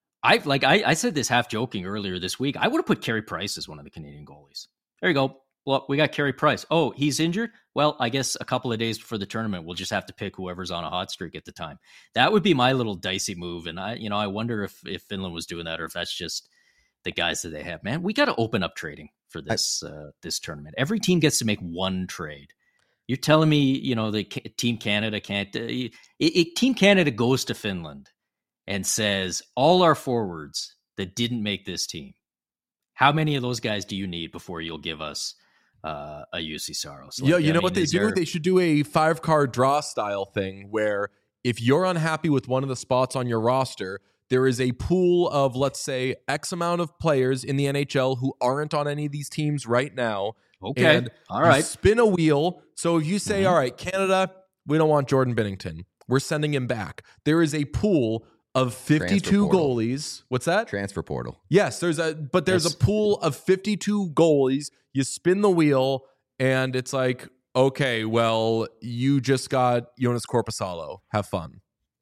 I said this half joking earlier this week. I would have put Carey Price as one of the Canadian goalies. There you go. Well, we got Carey Price. Oh, he's injured? Well, I guess a couple of days before the tournament, we'll just have to pick whoever's on a hot streak at the time. That would be my little dicey move. And I wonder if Finland was doing that or if that's just the guys that they have. Man, we got to open up trading for this this tournament. Every team gets to make one trade. You're telling me, the Team Canada can't. Team Canada goes to Finland and says, all our forwards that didn't make this team, how many of those guys do you need before you'll give us a UC Saros? You know what they do? They should do a 5-card draw style thing where if you're unhappy with one of the spots on your roster, there is a pool of, let's say, X amount of players in the NHL who aren't on any of these teams right now. Okay. And all right. Spin a wheel. So if you say, all right, Canada, we don't want Jordan Binnington, we're sending him back. There is a pool of 52 goalies. What's that? Transfer portal. Yes, there's a pool of 52 goalies. You spin the wheel, and it's like, okay, well, you just got Jonas Korpisalo. Have fun.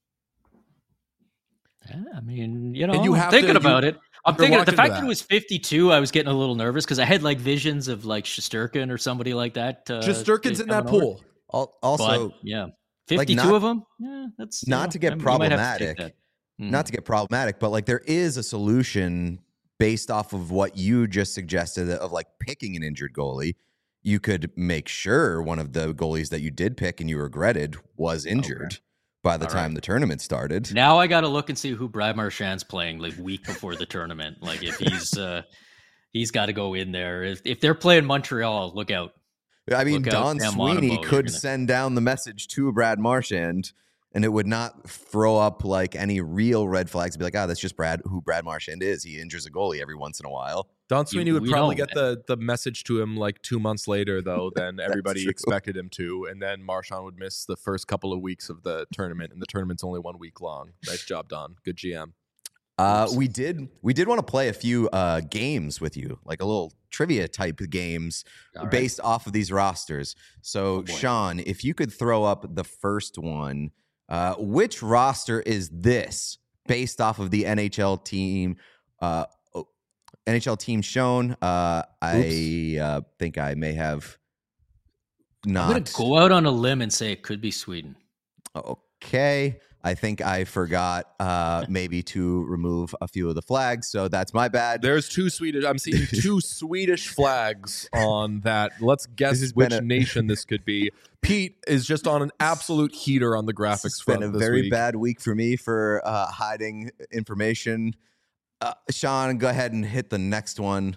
Yeah, I mean, I'm thinking about it. I'm thinking the fact that it was 52, I was getting a little nervous because I had visions of Shesterkin or somebody like that. Shesterkin's in that pool. Also, but, yeah, 52 of them. Yeah, that's not to get problematic. Not to get problematic, but there is a solution based off of what you just suggested of picking an injured goalie. You could make sure one of the goalies that you did pick and you regretted was injured. Okay. By the time the tournament started. Now I got to look and see who Brad Marchand's playing week before the tournament. If he's got to go in there. If they're playing Montreal, look out. I mean, Don Sweeney could send down the message to Brad Marchand and it would not throw up like any real red flags. Be like, that's just who Brad Marchand is. He injures a goalie every once in a while. Don Sweeney would probably get the message to him like 2 months later, though, than everybody expected him to. And then Marchand would miss the first couple of weeks of the tournament, and the tournament's only 1 week long. Nice job, Don. Good GM. We did want to play a few games with you, like a little trivia type games based off of these rosters. So, Sean, if you could throw up the first one, which roster is this based off of the NHL team? NHL team shown. I think I may have not. I'm going to go out on a limb and say it could be Sweden. Okay. I think I forgot maybe to remove a few of the flags, so that's my bad. There's two Swedish. I'm seeing two Swedish flags on that. Let's guess which nation this could be. Pete is just on an absolute heater on the graphics front. It's been a very bad week for me for hiding information. Sean, go ahead and hit the next one.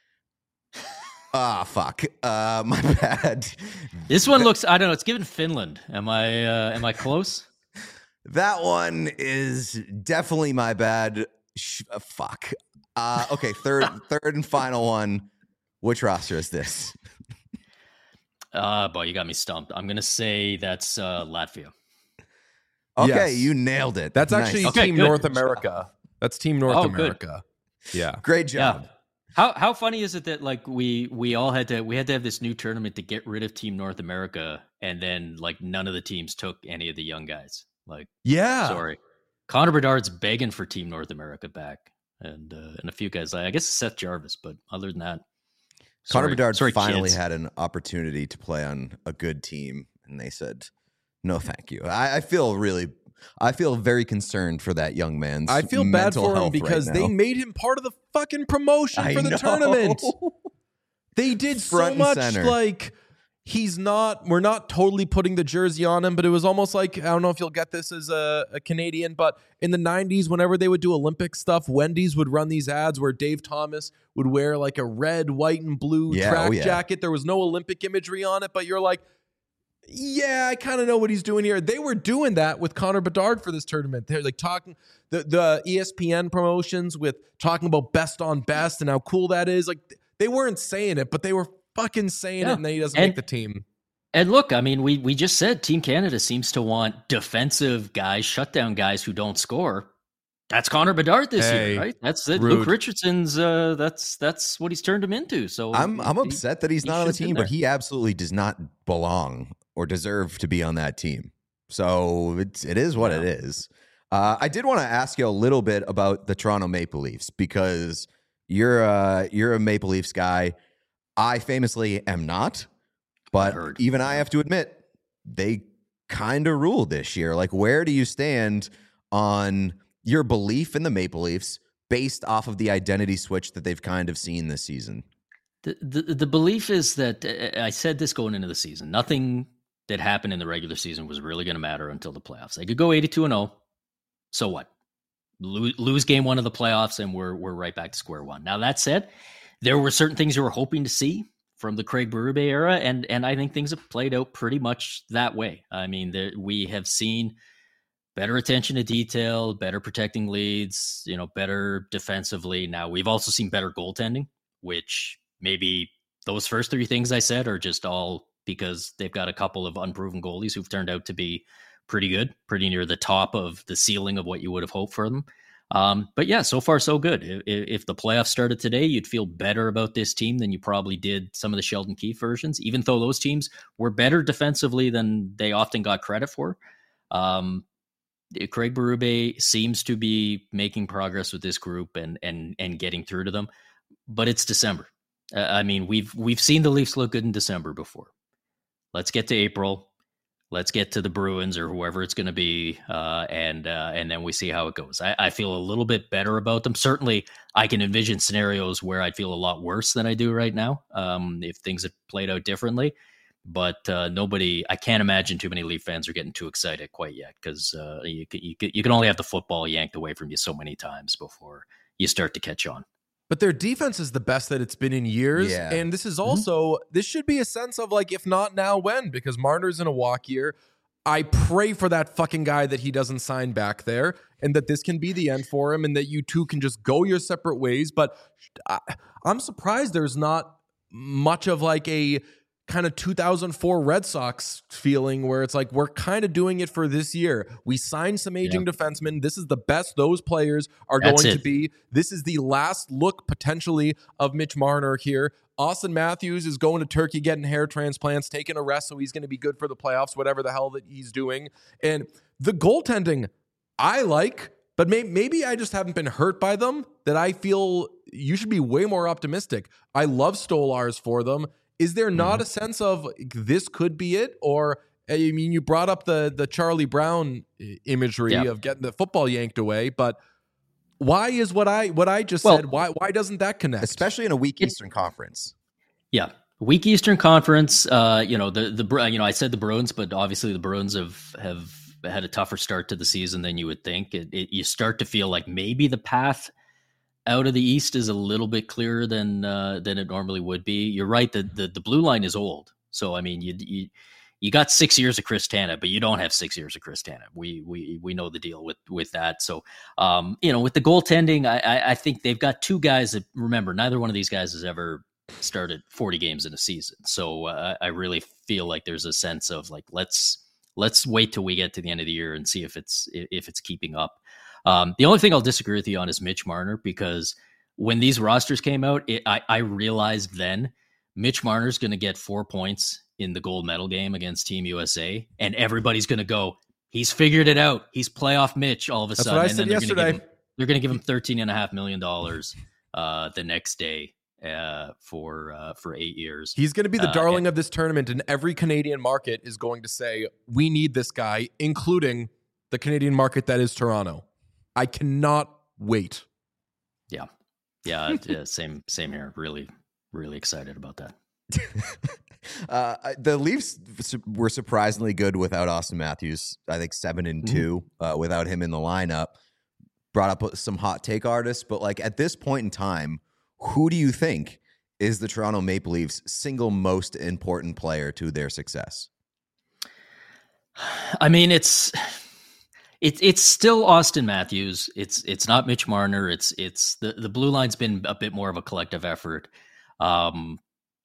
Fuck. My bad. This one looks, I don't know, it's given Finland. Am I close? That one is definitely my bad. Fuck. Okay, third and final one. Which roster is this? Boy, you got me stumped. I'm going to say that's Latvia. Okay, yes. You nailed it. That's actually Team North America. That's Team North America. Good. Yeah. Great job. Yeah. How funny is it that like we all had to have this new tournament to get rid of Team North America, and then like none of the teams took any of the young guys. Like, yeah, sorry, Connor Bedard's begging for Team North America back, and a few guys. I guess Seth Jarvis, but other than that, Connor Bedard finally had an opportunity to play on a good team, and they said, "No, thank you." I feel very concerned for that young man's. I feel bad for him because they made him part of the fucking promotion for the tournament. They did so much like. We're not totally putting the jersey on him, but it was almost like, I don't know if you'll get this as a Canadian, but in the 90s, whenever they would do Olympic stuff, Wendy's would run these ads where Dave Thomas would wear like a red, white, and blue track jacket. There was no Olympic imagery on it, but you're like, yeah, I kind of know what he's doing here. They were doing that with Connor Bedard for this tournament. They're like talking the ESPN promotions with talking about best on best and how cool that is. Like they weren't saying it, but they were fucking saying it, and then he doesn't make the team. And look, I mean, we just said Team Canada seems to want defensive guys, shutdown guys who don't score. That's Connor Bedard this year, right? That's it. Luke Richardson's. That's what he's turned him into. So I'm upset that he's not on the team, but he absolutely does not belong or deserve to be on that team. So it is what it is. I did want to ask you a little bit about the Toronto Maple Leafs because you're a Maple Leafs guy. I famously am not, but even I have to admit, they kind of ruled this year. Like, where do you stand on your belief in the Maple Leafs based off of the identity switch that they've kind of seen this season? The belief is that, I said this going into the season, nothing that happened in the regular season was really going to matter until the playoffs. They could go 82-0. So what? Lose game one of the playoffs, and we're right back to square one. Now, that said, there were certain things you were hoping to see from the Craig Berube era, and I think things have played out pretty much that way. I mean, we have seen better attention to detail, better protecting leads, better defensively. Now, we've also seen better goaltending, which maybe those first three things I said are just all because they've got a couple of unproven goalies who've turned out to be pretty good, pretty near the top of the ceiling of what you would have hoped for them. But yeah, so far so good. If the playoffs started today, you'd feel better about this team than you probably did some of the Sheldon Keefe versions, even though those teams were better defensively than they often got credit for. Craig Berube seems to be making progress with this group and getting through to them, but it's December. I mean, we've seen the Leafs look good in December before. Let's get to April. Let's get to the Bruins or whoever it's going to be, and then we see how it goes. I feel a little bit better about them. Certainly, I can envision scenarios where I'd feel a lot worse than I do right now if things had played out differently. But I can't imagine too many Leaf fans are getting too excited quite yet because you can only have the football yanked away from you so many times before you start to catch on. But their defense is the best that it's been in years. Yeah. And this is also, this should be a sense of like, if not now, when? Because Marner's in a walk year. I pray for that fucking guy that he doesn't sign back there and that this can be the end for him and that you two can just go your separate ways. But I'm surprised there's not much of like a kind of 2004 Red Sox feeling where it's like, we're kind of doing it for this year. We signed some aging defensemen. This is the best those players are going to be. This is the last look potentially of Mitch Marner here. Austin Matthews is going to Turkey, getting hair transplants, taking a rest, so he's going to be good for the playoffs, whatever the hell that he's doing. And the goaltending, I like, but maybe I just haven't been hurt by them, that I feel you should be way more optimistic. I love Stolarz for them. Is there not a sense of this could be it? Or, I mean, you brought up the Charlie Brown imagery of getting the football yanked away, but why is what I just said? Why doesn't that connect? Especially in a weak Eastern Conference. Yeah, weak Eastern Conference. I said the Bruins, but obviously the Bruins have had a tougher start to the season than you would think. You start to feel like maybe the path out of the East is a little bit clearer than it normally would be. You're right. The blue line is old. So, I mean, you got 6 years of Chris Tanev, but you don't have 6 years of Chris Tanev. We know the deal with that. So, with the goaltending, I think they've got two guys that, remember, neither one of these guys has ever started 40 games in a season. So I really feel like there's a sense of like, let's wait till we get to the end of the year and see if it's keeping up. The only thing I'll disagree with you on is Mitch Marner, because when these rosters came out, I realized then Mitch Marner's going to get 4 points in the gold medal game against Team USA, and everybody's going to go, he's figured it out. He's playoff Mitch all of a sudden. That's what I said yesterday. They're going to give him $13.5 million the next day for 8 years. He's going to be the darling of this tournament, and every Canadian market is going to say, we need this guy, including the Canadian market that is Toronto. I cannot wait. Yeah, same here. Really, really excited about that. The Leafs were surprisingly good without Austin Matthews. I think 7-2 without him in the lineup. Brought up some hot take artists, but like at this point in time, who do you think is the Toronto Maple Leafs' single most important player to their success? I mean, it's still Austin Matthews. It's not Mitch Marner. It's the blue line's been a bit more of a collective effort. I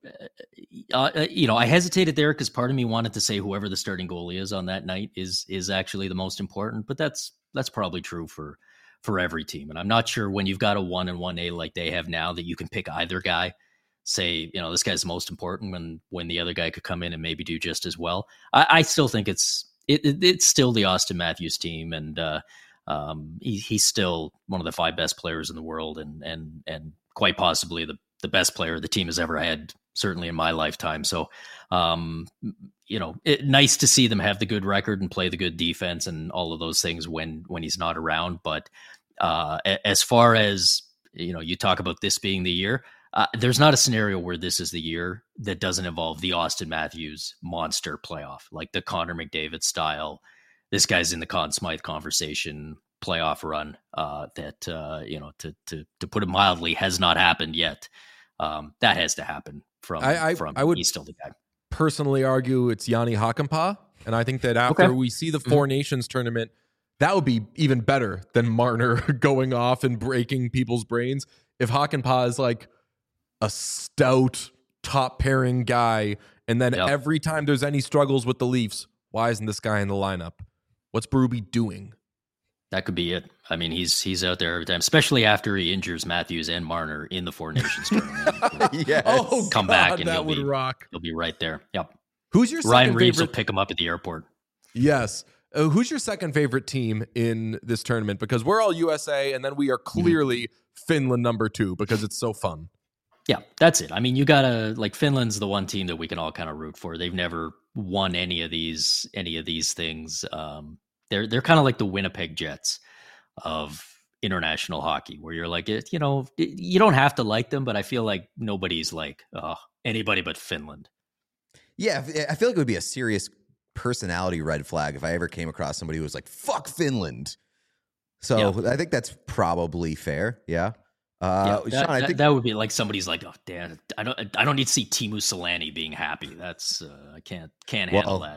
hesitated there because part of me wanted to say whoever the starting goalie is on that night is actually the most important, but that's probably true for every team. And I'm not sure when you've got a 1 and 1A like they have now that you can pick either guy, say, this guy's the most important when the other guy could come in and maybe do just as well. I still think it's still the Austin Matthews team, and he's still one of the 5 best players in the world, and quite possibly the best player the team has ever had, certainly in my lifetime. So, nice to see them have the good record and play the good defense and all of those things when he's not around. But as far as, you talk about this being the year, there's not a scenario where this is the year that doesn't involve the Austin Matthews monster playoff, like the Connor McDavid style. This guy's in the Conn Smythe conversation playoff run that, to put it mildly, has not happened yet. That has to happen he's still the guy. Personally argue it's Yanni Hakanpää, and I think that after we see the Four Nations tournament, that would be even better than Marner going off and breaking people's brains. If Hakanpää is like a stout top pairing guy, and then every time there's any struggles with the Leafs, why isn't this guy in the lineup? What's Berube doing? That could be it. I mean, he's out there every time, especially after he injures Matthews and Marner in the Four Nations tournament. Yes. Come back and that would rock. He'll be right there. Yep. Who's your Ryan second Reeves favorite? will pick him up at the airport. Yes. Who's your second favorite team in this tournament? Because we're all USA, and then we are clearly Finland number 2 because it's so fun. Yeah, that's it. I mean, you gotta Finland's the one team that we can all kind of root for. They've never won any of these things. They're kind of like the Winnipeg Jets of international hockey, where you're like, you don't have to like them, but I feel like nobody's like anybody but Finland. Yeah, I feel like it would be a serious personality red flag if I ever came across somebody who was like, fuck Finland. So I think that's probably fair. Yeah. Sean, I think that would be like somebody's like, oh, damn, I don't need to see Teemu Selanne being happy. That's I can't handle that.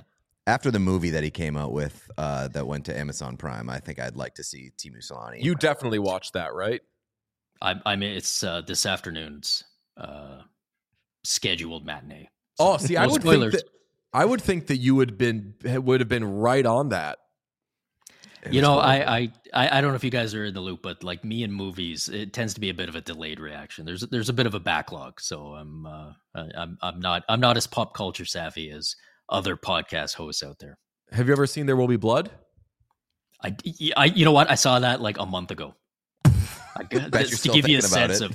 after the movie that he came out with that went to Amazon Prime, I think I'd like to see Teemu Selanne. You definitely watched that, right? I mean, it's this afternoon's scheduled matinee. So, see, I would think that you would have been right on that. You know, I don't know if you guys are in the loop, but like me and movies, it tends to be a bit of a delayed reaction. There's a bit of a backlog, so I'm not as pop culture savvy as other podcast hosts out there. Have you ever seen There Will Be Blood? I you know what? I saw that like a month ago. To give you a sense of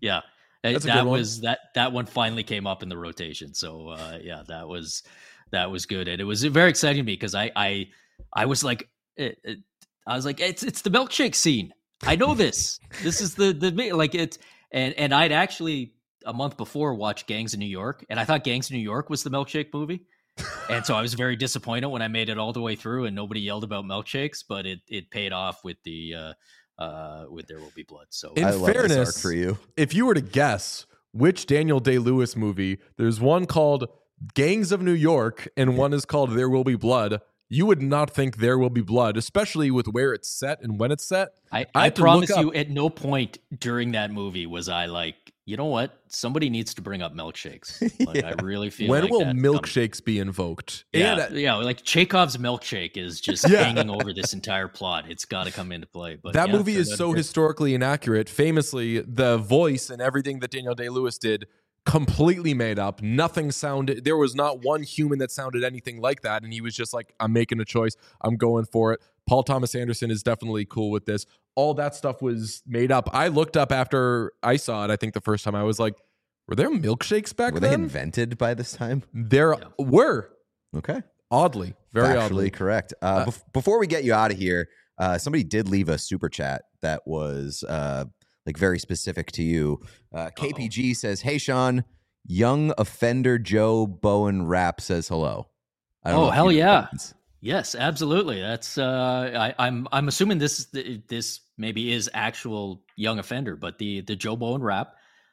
that one finally came up in the rotation. So that was good, and it was very exciting to me because I was like. I was like, it's the milkshake scene. I know this. This is the like it, and I'd actually a month before watched Gangs of New York, and I thought Gangs of New York was the milkshake movie, and so I was very disappointed when I made it all the way through and nobody yelled about milkshakes, but it paid off with the with There Will Be Blood. So in fairness, for you, if you were to guess which Daniel Day-Lewis movie, there's one called Gangs of New York and one is called There Will Be Blood. You would not think There Will Be Blood, especially with where it's set and when it's set. I promise you, at no point during that movie was I like, you know what? Somebody needs to bring up milkshakes. Like, I really feel when like will milkshakes be invoked? Yeah, like Chekhov's milkshake is just hanging over this entire plot. It's got to come into play. But that movie is so historically inaccurate. Famously, the voice and everything that Daniel Day-Lewis did completely made up. Nothing sounded, there was not one human that sounded anything like that, and he was just like, I'm making a choice, I'm going for it. Paul Thomas Anderson is definitely cool with this. All that stuff was made up. I looked up after I saw it, I think the first time, I was like, were there milkshakes back then? Were they invented by this time? There were. Okay. Oddly. Very Factually oddly. Correct. Before we get you out of here, somebody did leave a super chat that was like very specific to you. KPG says, "Hey Sean, young offender Joe Bowen rap says hello." Oh hell yeah! Yes, absolutely. That's I'm assuming this maybe is actual young offender, but the Joe Bowen rap,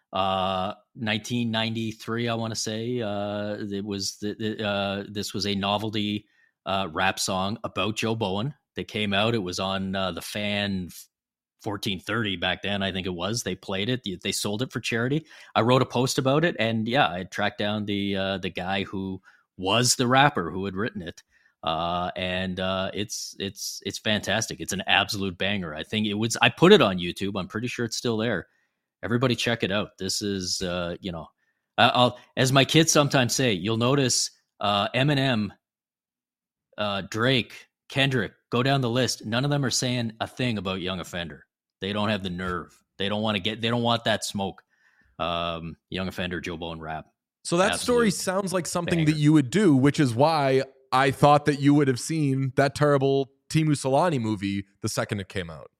1993, I want to say. It was this was a novelty rap song about Joe Bowen that came out. It was on the Fan 1430 back then, I think it was. They played it. They sold it for charity. I wrote a post about it, and I tracked down the guy who was the rapper who had written it, and it's fantastic. It's an absolute banger. I think it was. I put it on YouTube. I'm pretty sure it's still there. Everybody check it out. This is I'll, as my kids sometimes say, you'll notice Eminem, Drake, Kendrick, go down the list. None of them are saying a thing about young offender. They don't have the nerve. They don't want that smoke. Young offender, Joe Bowen rap. So that story sounds like something that you would do, which is why I thought that you would have seen that terrible Teemu Selanne movie the second it came out.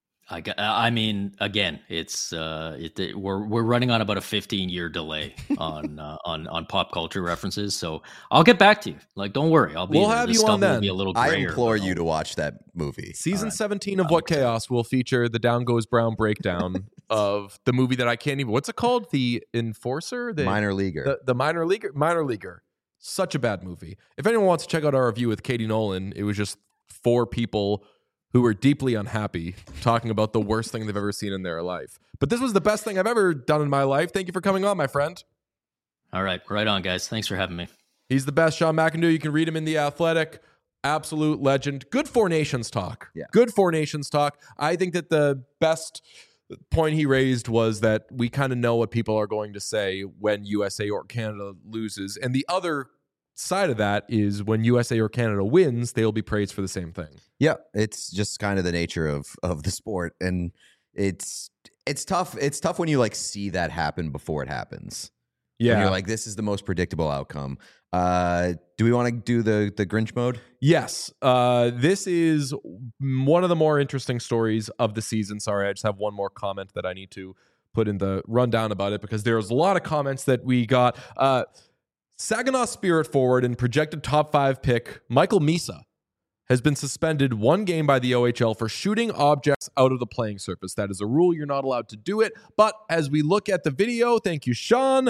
I mean, again, it's we're running on about a 15-year delay on pop culture references. So I'll get back to you. Like, don't worry, we'll have you on then. Be a little grayer, I implore you to watch that movie. Season 17 of What Chaos will feature the Down Goes Brown breakdown of the movie that I can't even. What's it called? The Enforcer, the Minor Leaguer, the Minor Leaguer. Such a bad movie. If anyone wants to check out our review with Katie Nolan, it was just 4 people who were deeply unhappy talking about the worst thing they've ever seen in their life. But this was the best thing I've ever done in my life. Thank you for coming on, my friend. All right. Right on, guys. Thanks for having me. He's the best, Sean McIndoe. You can read him in The Athletic. Absolute legend. Good Four Nations talk. Yeah. Good Four Nations talk. I think that the best point he raised was that we kind of know what people are going to say when USA or Canada loses. And the other side of that is when USA or Canada wins, they will be praised for the same thing. Yeah, it's just kind of the nature of the sport, and it's tough. It's tough when you like see that happen before it happens. Yeah, when you're like, this is the most predictable outcome. Do we want to do the Grinch mode? Yes. This is one of the more interesting stories of the season. Sorry, I just have one more comment that I need to put in the rundown about it because there's a lot of comments that we got. Saginaw Spirit forward and projected top 5 pick Michael Misa has been suspended 1 game by the OHL for shooting objects out of the playing surface. That is a rule. You're not allowed to do it. But as we look at the video, thank you, Sean,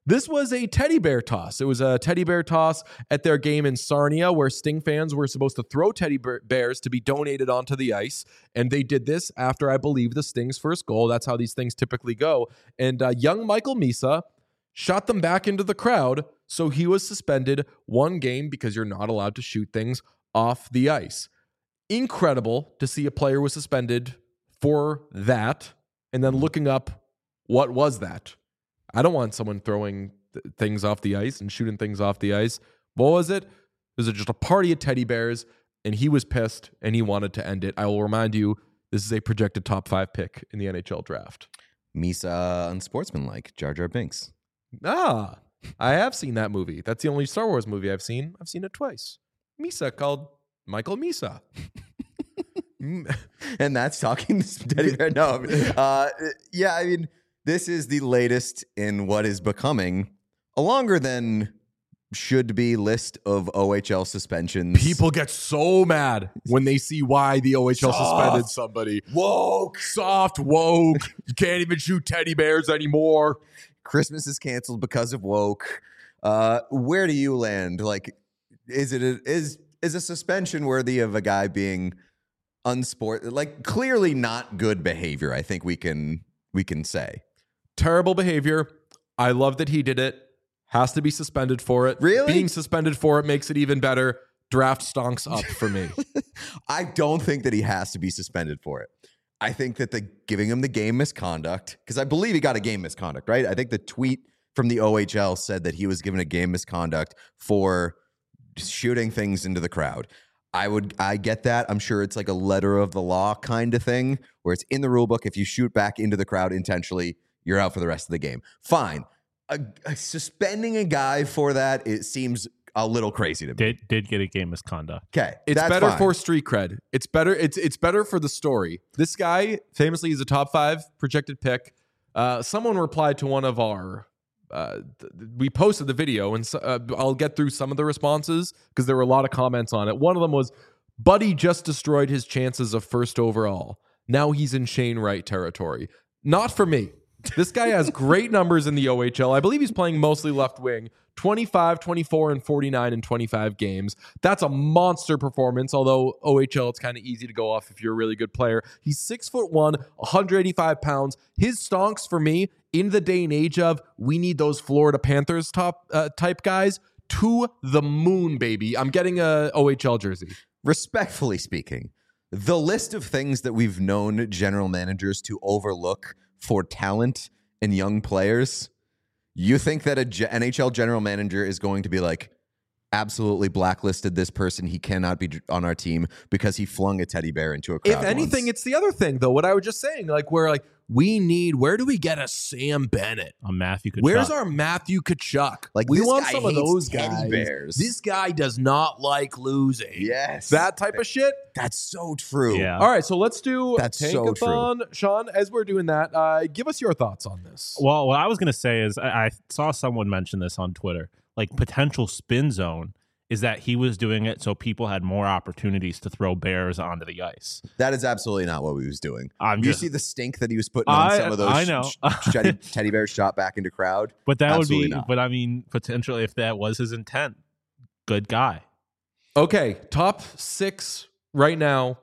This was a teddy bear toss. It was a teddy bear toss at their game in Sarnia where Sting fans were supposed to throw teddy bears to be donated onto the ice. And they did this after, I believe, the Sting's first goal. That's how these things typically go. And young Michael Misa shot them back into the crowd. So he was suspended 1 game because you're not allowed to shoot things off the ice. Incredible to see a player was suspended for that. And then looking up, what was that? I don't want someone throwing things off the ice and shooting things off the ice. What was it? It was just a party of teddy bears, and he was pissed, and he wanted to end it. I will remind you, this is a projected top 5 pick in the NHL draft. Misa unsportsmanlike, Jar Jar Binks. I have seen that movie. That's the only Star Wars movie I've seen. I've seen it twice. Misa called Michael Misa. And that's talking to teddy bear. No, yeah, I mean, this is the latest in what is becoming a longer than should be list of OHL suspensions. People get so mad when they see why the OHL suspended somebody. Woke. Soft, woke. You can't even shoot teddy bears anymore. Christmas is canceled because of woke. Where do you land? Like, is a suspension worthy of a guy being like clearly not good behavior? I think we can say. Terrible behavior. I love that he did it. Has to be suspended for it. Really? Being suspended for it makes it even better. Draft stonks up for me. I don't think that he has to be suspended for it. I think that giving him the game misconduct, because I believe he got a game misconduct, right? I think the tweet from the OHL said that he was given a game misconduct for shooting things into the crowd. I get that. I'm sure it's like a letter of the law kind of thing where it's in the rule book. If you shoot back into the crowd intentionally, you're out for the rest of the game. Fine. Suspending a guy for that, it seems a little crazy to me. Did get a game misconduct. Okay. It's better for street cred. It's better for the story. This guy famously is a top 5 projected pick. Someone replied to one of our we posted the video, and I'll get through some of the responses because there were a lot of comments on it. One of them was, Buddy just destroyed his chances of first overall. Now he's in Shane Wright territory. Not for me. This guy has great numbers in the OHL. I believe he's playing mostly left wing. 25, 24, and 49 in 25 games. That's a monster performance, although OHL, it's kind of easy to go off if you're a really good player. He's 6'1", 185 pounds. His stonks for me, in the day and age of, we need those Florida Panthers type guys, to the moon, baby. I'm getting a OHL jersey. Respectfully speaking, the list of things that we've known general managers to overlook for talent and young players, you think that a NHL general manager is going to be like, absolutely blacklisted this person, he cannot be on our team because he flung a teddy bear into a crowd? If anything, it's the other thing, though. What I was just saying, like, where where do we get a Sam Bennett? A Matthew Tkachuk. Where's our Matthew Tkachuk? Like, we this want guy some of hates those teddy guys. bears. This guy does not like losing. Yes. That type of shit. That's so true. Yeah. All right, so let's do That's so Tankathon. Sean, as we're doing that, give us your thoughts on this. Well, what I was going to say is I saw someone mention this on Twitter, like potential spin zone is that he was doing it so people had more opportunities to throw bears onto the ice. That is absolutely not what he was doing. You see the stink that he was putting on some of those I know. teddy bears shot back into crowd? But that Absolutely would be, not. but I mean, potentially if that was his intent, good guy. Okay, top 6 right now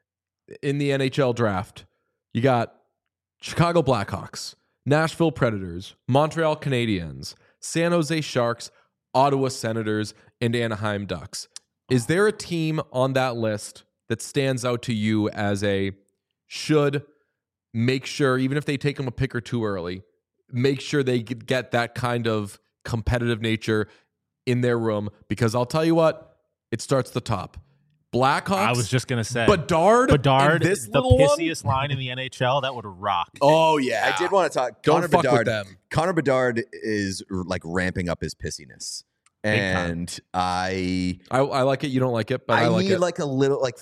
in the NHL draft. You got Chicago Blackhawks, Nashville Predators, Montreal Canadiens, San Jose Sharks, Ottawa Senators, and Anaheim Ducks. Is there a team on that list that stands out to you as a should make sure, even if they take them a pick or two early, make sure they get that kind of competitive nature in their room? Because I'll tell you what, it starts at the top. Blackhawks. I was just going to say. Bedard, this the pissiest line in the NHL, that would rock. Oh, yeah. I did want to talk. Don't fuck with them. Connor Bedard is like ramping up his pissiness. And I like it. You don't like it, but I like need it. like a little, like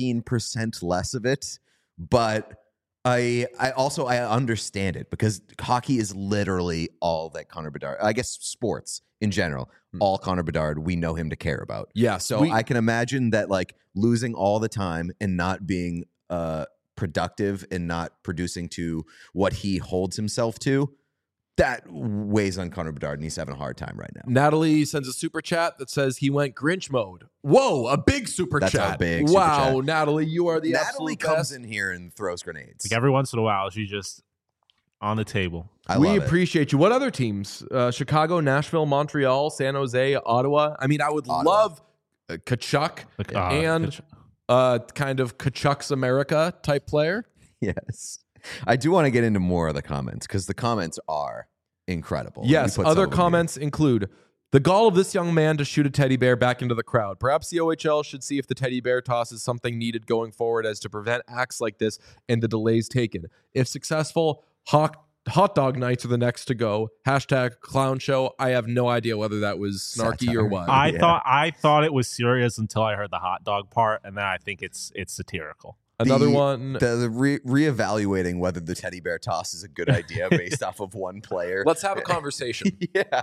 15% less of it. But I also understand it because hockey is literally all that Connor Bedard, I guess sports in general, all Connor Bedard, we know him to care about. Yeah. So I can imagine that like losing all the time and not being productive and not producing to what he holds himself to that weighs on Connor Bedard, and he's having a hard time right now. Natalie sends a super chat that says he went Grinch mode. Whoa, a big super chat. That's a big super wow, chat. Natalie, you are the Natalie absolute comes best. in here and throws grenades. Like every once in a while, she's just on the table. We appreciate you. What other teams? Chicago, Nashville, Montreal, San Jose, Ottawa. I mean, I would love Tkachuk and kind of Tkachuk's America type player. Yes. I do want to get into more of the comments because the comments are incredible. Yes, other comments include the gall of this young man to shoot a teddy bear back into the crowd. Perhaps the OHL should see if the teddy bear toss is something needed going forward as to prevent acts like this and the delays taken. If successful, hot dog nights are the next to go. # clown show. I have no idea whether that was snarky or what. I thought it was serious until I heard the hot dog part, and then I think it's satirical. Another one. The reevaluating whether the teddy bear toss is a good idea based off of one player. Let's have a conversation. Yeah.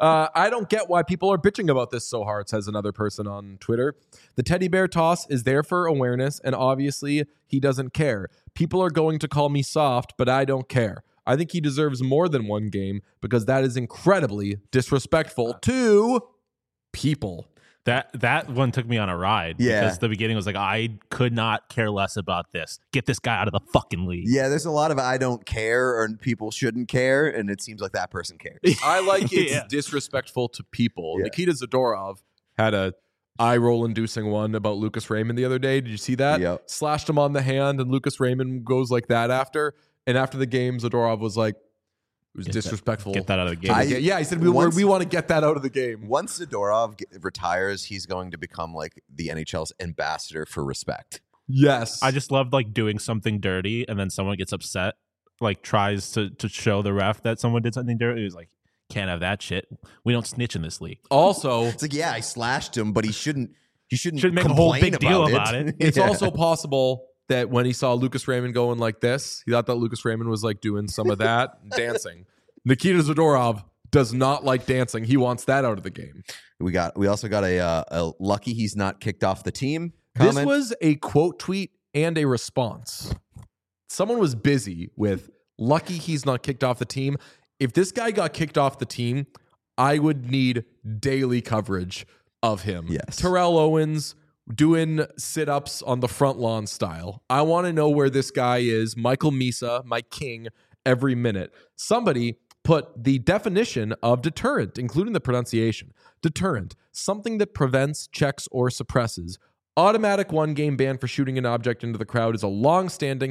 I don't get why people are bitching about this so hard, says another person on Twitter. The teddy bear toss is there for awareness, and obviously he doesn't care. People are going to call me soft, but I don't care. I think he deserves more than one game because that is incredibly disrespectful to people. That one took me on a ride. Yeah. Because the beginning was like, I could not care less about this. Get this guy out of the fucking league. Yeah, there's a lot of I don't care or people shouldn't care, and it seems like that person cares. I like it's disrespectful to people. Yeah. Nikita Zadorov had a eye-roll-inducing one about Lucas Raymond the other day. Did you see that? Yep. Slashed him on the hand, and Lucas Raymond goes like that after. And after the game, Zadorov was like, it was disrespectful. Get that out of the game. He said, we want to get that out of the game. Once Zadorov retires, he's going to become like the NHL's ambassador for respect. Yes. I just love like doing something dirty and then someone gets upset, like tries to show the ref that someone did something dirty. He's like, can't have that shit. We don't snitch in this league. Also, it's like, yeah, I slashed him, but he shouldn't make a whole big deal about it. It's also possible that when he saw Lucas Raymond going like this, he thought that Lucas Raymond was like doing some of that dancing. Nikita Zadorov does not like dancing. He wants that out of the game. We also got a lucky he's not kicked off the team comment. This was a quote tweet and a response. Someone was busy with lucky he's not kicked off the team. If this guy got kicked off the team, I would need daily coverage of him. Yes. Terrell Owens doing sit-ups on the front lawn style. I want to know where this guy is. Michael Misa, my king, every minute. Somebody put the definition of deterrent, including the pronunciation. Deterrent, something that prevents, checks, or suppresses. Automatic one-game ban for shooting an object into the crowd is a long-standing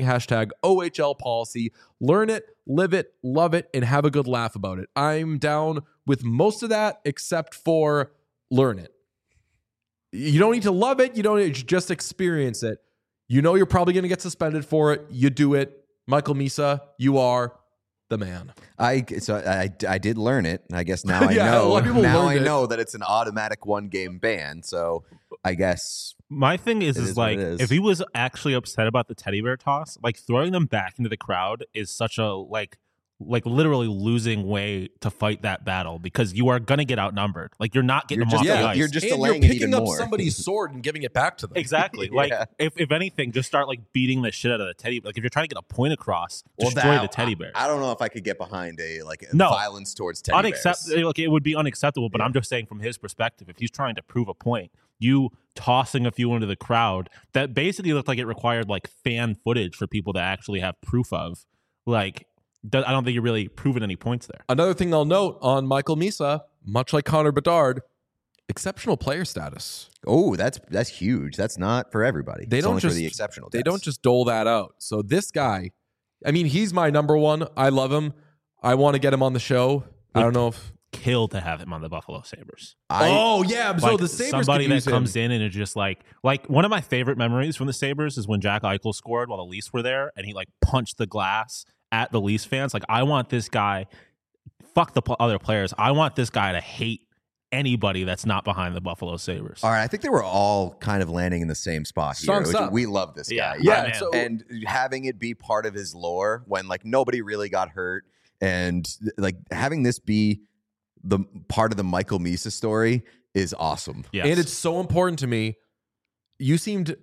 #OHL policy. Learn it, live it, love it, and have a good laugh about it. I'm down with most of that except for learn it. You don't need to love it. You don't need to just experience it. You know you're probably going to get suspended for it. You do it. Michael Misa, you are the man. I did learn it. I guess now I know. Now I know that it's an automatic one-game ban. So I guess my thing is like if he was actually upset about the teddy bear toss, like throwing them back into the crowd is such a like literally losing way to fight that battle because you are going to get outnumbered. Like you're not getting them off the ice. You're just and delaying you're picking it even up more. somebody's sword and giving it back to them. Exactly. Like if anything, just start like beating the shit out of the teddy. Like if you're trying to get a point across, destroy the teddy bear. I don't know if I could get behind violence towards teddy bears. Like it would be unacceptable. But I'm just saying from his perspective, if he's trying to prove a point, you tossing a few into the crowd that basically looked like it required like fan footage for people to actually have proof of, like. I don't think you're really proving any points there. Another thing I'll note on Michael Misa, much like Connor Bedard, exceptional player status. Oh, that's huge. That's not for everybody. They don't just for the exceptional. They don't just dole that out. So this guy, I mean, he's my number one. I love him. I want to get him on the show. I don't know if kill to have him on the Buffalo Sabres. So like the Sabres somebody that comes in and is just like one of my favorite memories from the Sabres is when Jack Eichel scored while the Leafs were there and he like punched the glass at the Leafs fans. Like, I want this guy, fuck the other players. I want this guy to hate anybody that's not behind the Buffalo Sabres. All right, I think they were all kind of landing in the same spot here. We love this guy. Yeah. And having it be part of his lore when like nobody really got hurt and like having this be the part of the Michael Misa story is awesome. Yes. And it's so important to me. You seemed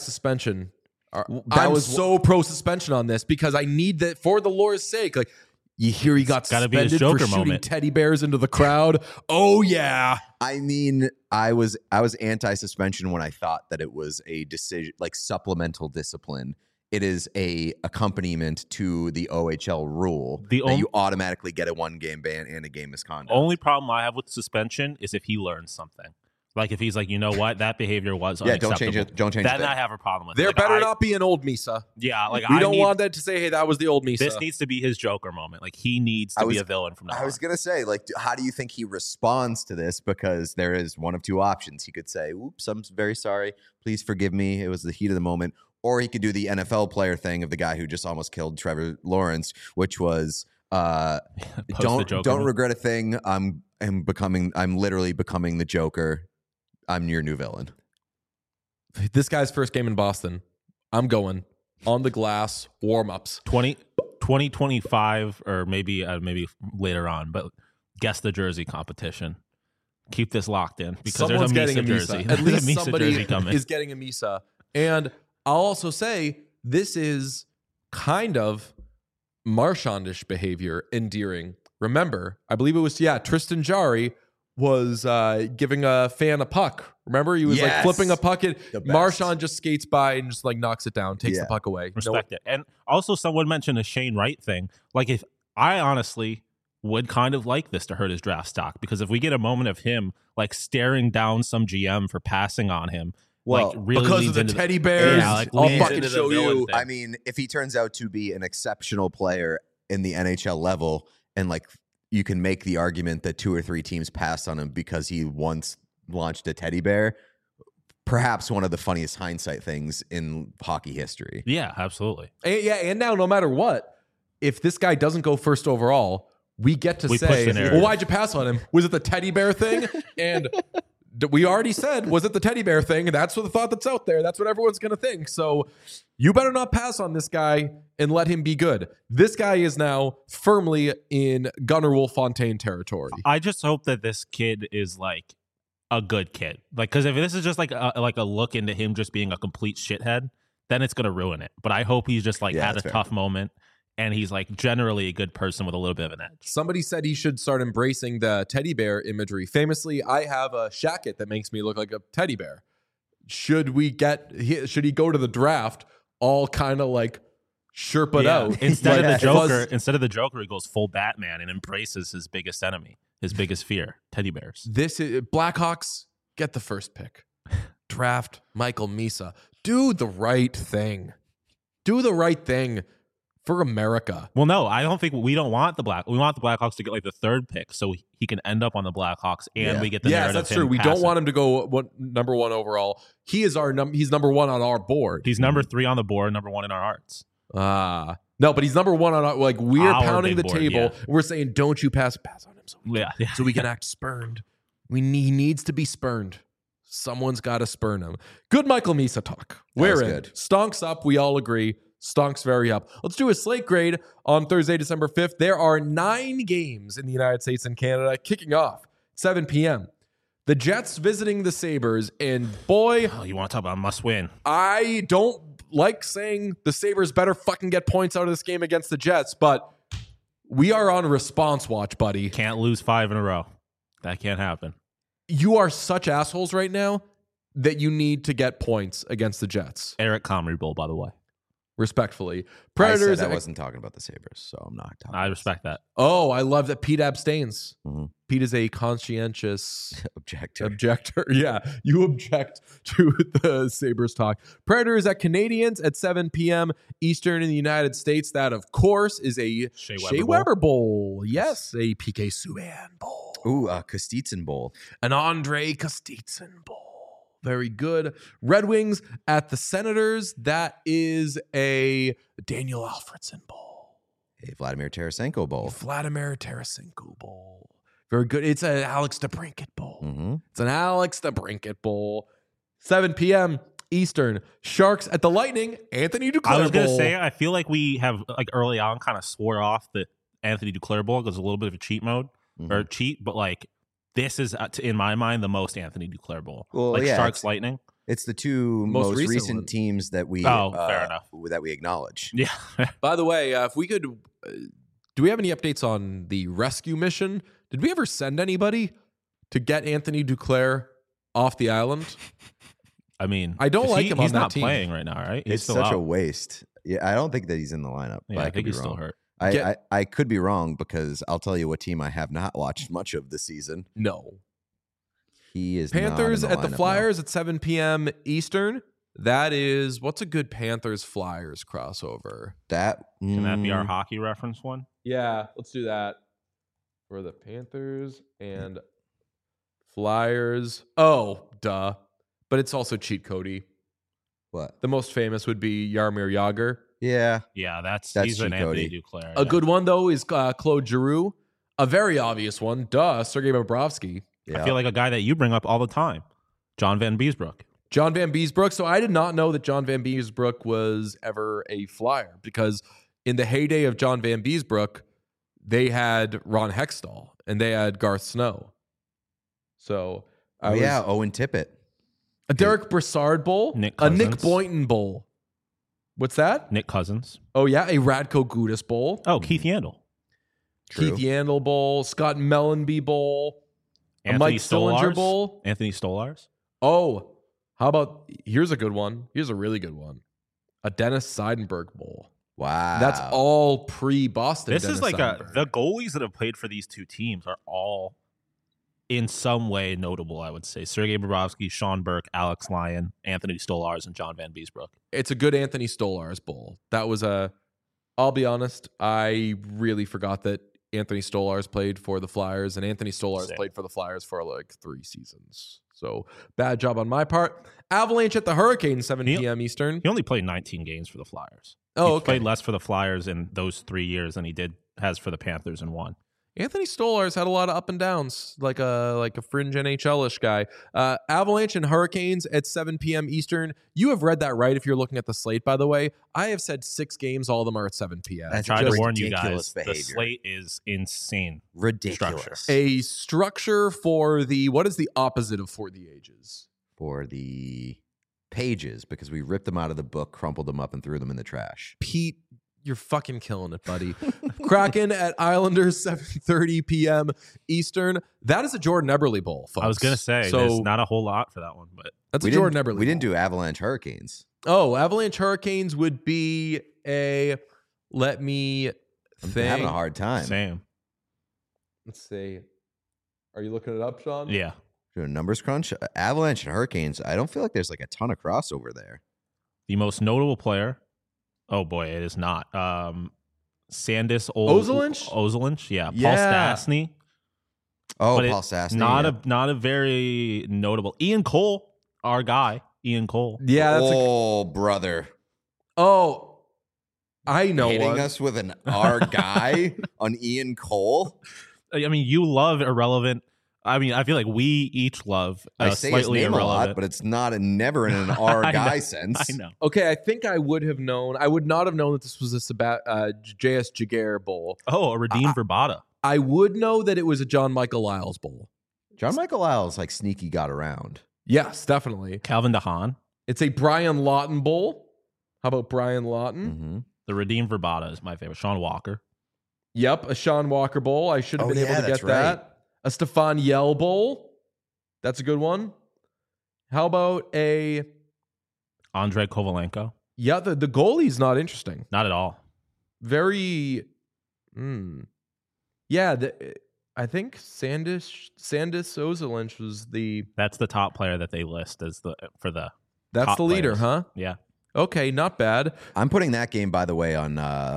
anti-suspension. I was so pro suspension on this because I need that for the lore's sake. Like, You hear he got suspended for shooting teddy bears into the crowd. Oh yeah. I mean, I was anti-suspension when I thought that it was a decision, like supplemental discipline. It is a accompaniment to the OHL rule that you automatically get a 1-game ban and a game misconduct. Only problem I have with suspension is if he learns something. Like if he's like, you know what, that behavior was unacceptable. Don't change it. Then I have a problem with it. There better not be an old Misa. Yeah, like we don't want that to say, hey, that was the old Misa. This needs to be his Joker moment. Like he needs to be a villain from now on. I was gonna say, like, how do you think he responds to this? Because there is one of two options. He could say, "Oops, I'm very sorry. Please forgive me. It was the heat of the moment." Or he could do the NFL player thing of the guy who just almost killed Trevor Lawrence, which was don't regret a thing. I'm literally becoming the Joker. I'm your new villain. This guy's first game in Boston. I'm going on the glass warm-ups. 2025 or maybe later on, but guess the jersey competition. Keep this locked in because someone's there's a getting Misa jersey. At least Misa somebody jersey coming. is getting a Misa. And I'll also say this is kind of Marchand-ish behavior, endearing. Remember, I believe it was, Tristan Jarry was giving a fan a puck. Remember? He was like flipping a puck. Marchand just skates by and just like knocks it down, takes the puck away. Respect it. And also someone mentioned a Shane Wright thing. Like if I honestly would kind of like this to hurt his draft stock, because if we get a moment of him like staring down some GM for passing on him, well, like really because of the teddy bears, I'll fucking show you. I mean, if he turns out to be an exceptional player in the NHL level, and like you can make the argument that 2 or 3 teams passed on him because he once launched a teddy bear, perhaps one of the funniest hindsight things in hockey history. Yeah, absolutely. And now no matter what, if this guy doesn't go first overall, we get to say, well, why'd you pass on him? Was it the teddy bear thing? And we already said, was it the teddy bear thing? That's what the thought that's out there. That's what everyone's going to think. So you better not pass on this guy and let him be good. This guy is now firmly in Gunnar Wolf-Fontaine territory. I just hope that this kid is like a good kid. Like, because if this is just like a look into him just being a complete shithead, then it's going to ruin it. But I hope he's just like had a tough moment and he's like generally a good person with a little bit of an edge. Somebody said he should start embracing the teddy bear imagery. Famously, I have a shacket that makes me look like a teddy bear. Should he go to the draft all kind of like Sherpa'd out? Instead of the Joker, he goes full Batman and embraces his biggest enemy, his biggest fear, teddy bears. This is Blackhawks get the first pick. Draft Michael Misa. Do the right thing. Do the right thing for America. Well, no, I don't think we want the Blackhawks to get like the 3rd pick so he can end up on the Blackhawks and we get the narrative. Yes, that's true. We don't want him to go number 1 overall. He is he's number 1 on our board. He's number 3 on the board, number 1 in our hearts. No, but he's number 1 on our, like we're pounding the table. Yeah. We're saying, don't you pass on him so we can act spurned. He needs to be spurned. Someone's got to spurn him. Good Michael Misa talk. We're in. Good. Stonks up. We all agree. Stonks very up. Let's do a slate grade on Thursday, December 5th. There are 9 games in the United States and Canada kicking off 7 p.m. The Jets visiting the Sabres, and boy... Oh, you want to talk about must win. I don't like saying the Sabres better fucking get points out of this game against the Jets, but we are on response watch, buddy. Can't lose 5 in a row. That can't happen. You are such assholes right now that you need to get points against the Jets. Eric Comrie Bowl, by the way. Respectfully. Predators. I wasn't talking about the Sabres, so I'm not talking. I respect that. Oh, I love that Pete abstains. Mm-hmm. Pete is a conscientious objector. Yeah, you object to the Sabres talk. Predators at Canadians at 7 p.m. Eastern in the United States. That, of course, is a Shea Weber Bowl. Yes, a PK Subban Bowl. Ooh, a Kostitsyn Bowl. An Andre Kostitsyn Bowl. Very good. Red Wings at the Senators. That is a Daniel Alfredsson Bowl. A Vladimir Tarasenko Bowl. Vladimir Tarasenko Bowl. Very good. It's an Alex DeBrincat Bowl. Mm-hmm. It's an Alex DeBrincat Bowl. 7 p.m. Eastern. Sharks at the Lightning. Anthony Duclair Bowl. I was going to say, I feel like we have, like early on, kind of swore off the Anthony Duclair Bowl because it's a little bit of a cheat mode or cheat, but like, this is, in my mind, the most Anthony Duclair Bowl. Well, like Sharks Lightning. It's the 2 most recent teams that we fair enough. that we acknowledge. Yeah. By the way, if we could do we have any updates on the rescue mission? Did we ever send anybody to get Anthony Duclair off the island? I mean, I don't like him on that team. He's not playing right now, right? It's such a waste. Yeah, I don't think that he's in the lineup. Yeah, I think he's still hurt. I could be wrong because I'll tell you what team I have not watched much of this season. No. He is Panthers not in the at the Flyers at 7 p.m. Eastern. That is, what's a good Panthers-Flyers crossover? Can that be our hockey reference one? Yeah, let's do that. For the Panthers and Flyers. Oh, duh. But it's also Cheat Cody. What? The most famous would be Jaromir Jagr. Yeah. Yeah, that's Cheat an Anthony Cody. Duclair. A good one, though, is Claude Giroux. A very obvious one. Duh, Sergei Bobrovsky. Yeah. I feel like a guy that you bring up all the time. John Van Beesbrook. John Van Beesbrook. So I did not know that John Van Beesbrook was ever a Flyer because in the heyday of John Van Beesbrook, they had Ron Hextall and they had Garth Snow. So Owen Tippett. A Derek Brassard Bowl. A Nick Boynton Bowl. What's that? Nick Cousins. Oh, yeah. A Radko Gudas Bowl. Oh, Keith Yandel. True. Keith Yandel Bowl. Scott Mellenby Bowl. Anthony a Mike Stolars. Stillinger Bowl. Anthony Stolars. Oh, how about, here's a good one. Here's a really good one. A Dennis Seidenberg Bowl. Wow. That's all pre-Boston. This Dennis is like Seidenberg. the goalies that have played for these two teams are all in some way notable, I would say. Sergei Bobrovsky, Sean Burke, Alex Lyon, Anthony Stolars, and John Van Beesbrook. It's a good Anthony Stolars Bowl. That was I'll be honest, I really forgot that Anthony Stolars played for the Flyers, and Anthony Stolars played for the Flyers for like 3 seasons. So bad job on my part. Avalanche at the Hurricanes, 7 p.m. Eastern. He only played 19 games for the Flyers. Oh, He played less for the Flyers in those 3 years than he has for the Panthers in 1. Anthony Stolars had a lot of up and downs, like a fringe NHL-ish guy. Avalanche and Hurricanes at 7 p.m. Eastern. You have read that right if you're looking at the slate, by the way. I have said 6 games, all of them are at 7 p.m. I tried to warn you ridiculous guys. behavior. The slate is insane. Ridiculous. Structure. A structure for what is the opposite of For the Ages? For the pages, because we ripped them out of the book, crumpled them up, and threw them in the trash. Pete, you're fucking killing it, buddy. Kraken at Islanders, 7:30 p.m. Eastern. That is a Jordan Eberle Bowl, folks. I was going to say, there's not a whole lot for that one, but that's a Jordan Eberle We didn't Bowl. do Avalanche Hurricanes. Oh, Avalanche Hurricanes would be let me think. I'm having a hard time. same. Let's see. Are you looking it up, Sean? Yeah. Do a numbers crunch. Avalanche and Hurricanes. I don't feel like there's like a ton of crossover there. The most notable player. Oh boy, it is not. Sandis Ozelinch, yeah. Yeah. Paul Stastny. Oh, But Paul Stastny. Not a very notable. Ian Cole, our guy. Ian Cole. Yeah, that's brother. Oh, I know Hitting one. us with an R guy on Ian Cole. I mean, you love irrelevant. I mean, I feel like we each love I say his slightly name a irrelevant. lot, but it's never in an R I guy know, sense. I know. Okay, I think I would have known. I would not have known that this was a J.S. Jaguar Bowl. Oh, a redeemed Verbata. I would know that it was a John Michael Lyles Bowl. John Michael Lyles like sneaky got around. Yes, definitely. Calvin DeHaan. It's a Brian Lawton Bowl. How about Brian Lawton? Mm-hmm. The redeemed Verbata is my favorite. Sean Walker. Yep, a Sean Walker Bowl. I should have been able to that's get that. A Stefan Yell Bowl. That's a good one. How about a Andrei Kovalenko. Yeah, the goalie's not interesting. Not at all. Very Yeah, I think Sandis Ozelinch was That's the top player that they list as That's top the leader, players. huh? Yeah. Okay, not bad. I'm putting that game, by the way, on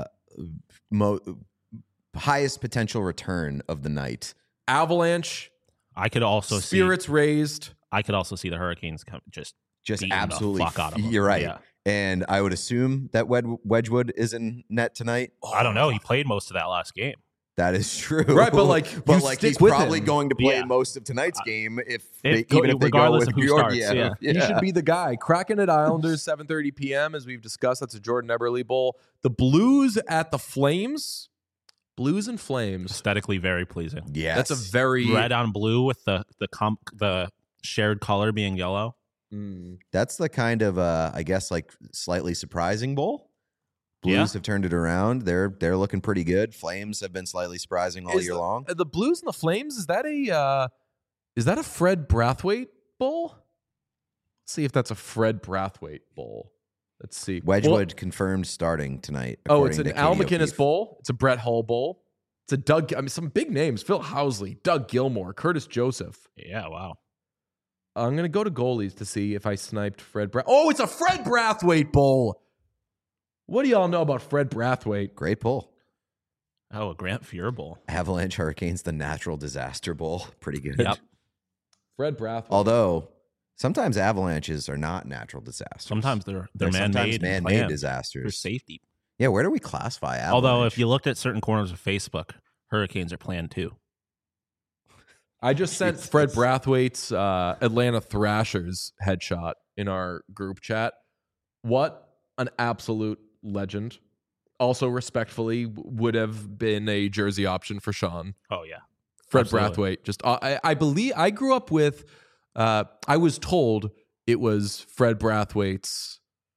highest potential return of the night. Avalanche. I could also Spirits raised. I could also see the Hurricanes just absolutely. the fuck out of them. You're right. Yeah. And I would assume that Wedgwood is in net tonight. I don't know. He played most of that last game. That is true. Right, but like he's probably going to play most of tonight's game even if they go regardless with of who starts. Yeah. He should be the guy. Kraken at Islanders, 7:30 p.m. As we've discussed, that's a Jordan Eberle Bowl. The Blues at the Flames. Blues and Flames. Aesthetically very pleasing. Yes. That's a very red on blue with the shared color being yellow. That's the kind of I guess like slightly surprising bowl. Blues have turned it around. They're looking pretty good. Flames have been slightly surprising all year long. The Blues and the Flames, is that a Fred Brathwaite Bowl? Let's see if that's a Fred Brathwaite Bowl. Let's see. Wedgwood confirmed starting tonight. It's an Al McInnes Bowl. It's a Brett Hull Bowl. It's a some big names. Phil Housley, Doug Gilmour, Curtis Joseph. Yeah, wow. I'm going to go to goalies to see if I sniped Fred it's a Fred Brathwaite Bowl. What do y'all know about Fred Brathwaite? Great pull. Oh, a Grant Fuhr Bowl. Avalanche Hurricanes, the Natural Disaster Bowl. Pretty good. Yep. Fred Brathwaite. Although sometimes avalanches are not natural disasters. Sometimes they're man-made disasters for safety. Yeah, where do we classify avalanche? Although if you looked at certain corners of Facebook, hurricanes are planned too. I just sent Fred Brathwaite's Atlanta Thrashers headshot in our group chat. What an absolute legend. Also, respectfully, would have been a jersey option for Sean. Oh, yeah. Fred Brathwaite. Just, I believe, I grew up with, I was told it was Fred Brathwaite's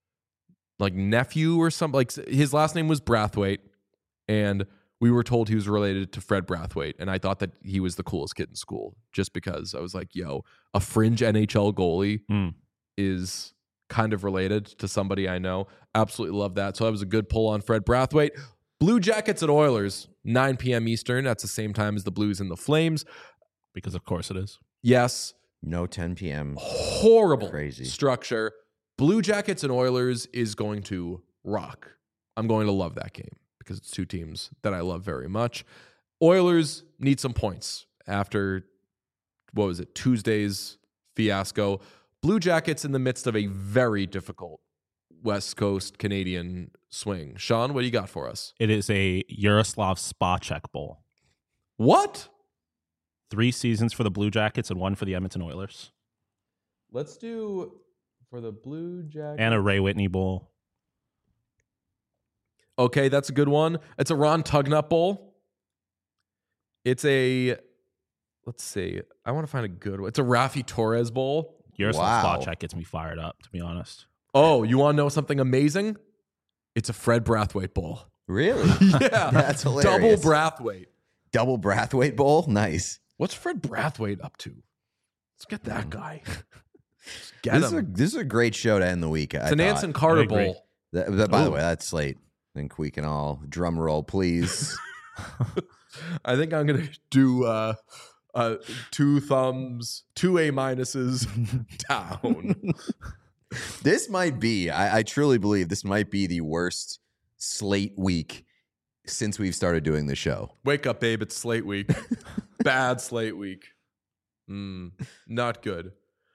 nephew or something. Like his last name was Brathwaite, and we were told he was related to Fred Brathwaite, and I thought that he was the coolest kid in school just because I was like, yo, a fringe NHL goalie is kind of related to somebody I know. Absolutely love that. So that was a good pull on Fred Brathwaite. Blue Jackets at Oilers, 9 p.m. Eastern. That's the same time as the Blues and the Flames. Because of course it is. Yes. No 10 p.m. Horrible Crazy structure. Blue Jackets and Oilers is going to rock. I'm going to love that game because it's two teams that I love very much. Oilers need some points after, Tuesday's fiasco. Blue Jackets in the midst of a very difficult West Coast Canadian swing. Sean, what do you got for us? It is a Yaroslav Spacek Bowl. What? 3 seasons for the Blue Jackets and 1 for the Edmonton Oilers. Let's do for the Blue Jackets. And a Ray Whitney Bowl. Okay, that's a good one. It's a Ron Tugnutt Bowl. It's a, let's see. I want to find a good one. It's a Rafi Torres Bowl. Yaroslav Spacek gets me fired up, to be honest. Oh, you want to know something amazing? It's a Fred Brathwaite Bowl. Really? Yeah. That's hilarious. Double Brathwaite. Double Brathwaite Bowl? Nice. What's Fred Brathwaite up to? Let's get that guy. This is a great show to end the week. It's an Anson Carter Bowl. By the way, that's slate. I think we can all drum roll, please. I think I'm going to do 2 thumbs, 2 A minuses down. This might be, I truly believe this might be the worst slate week since we've started doing the show. Wake up, babe. It's slate week. Bad slate week. Not good.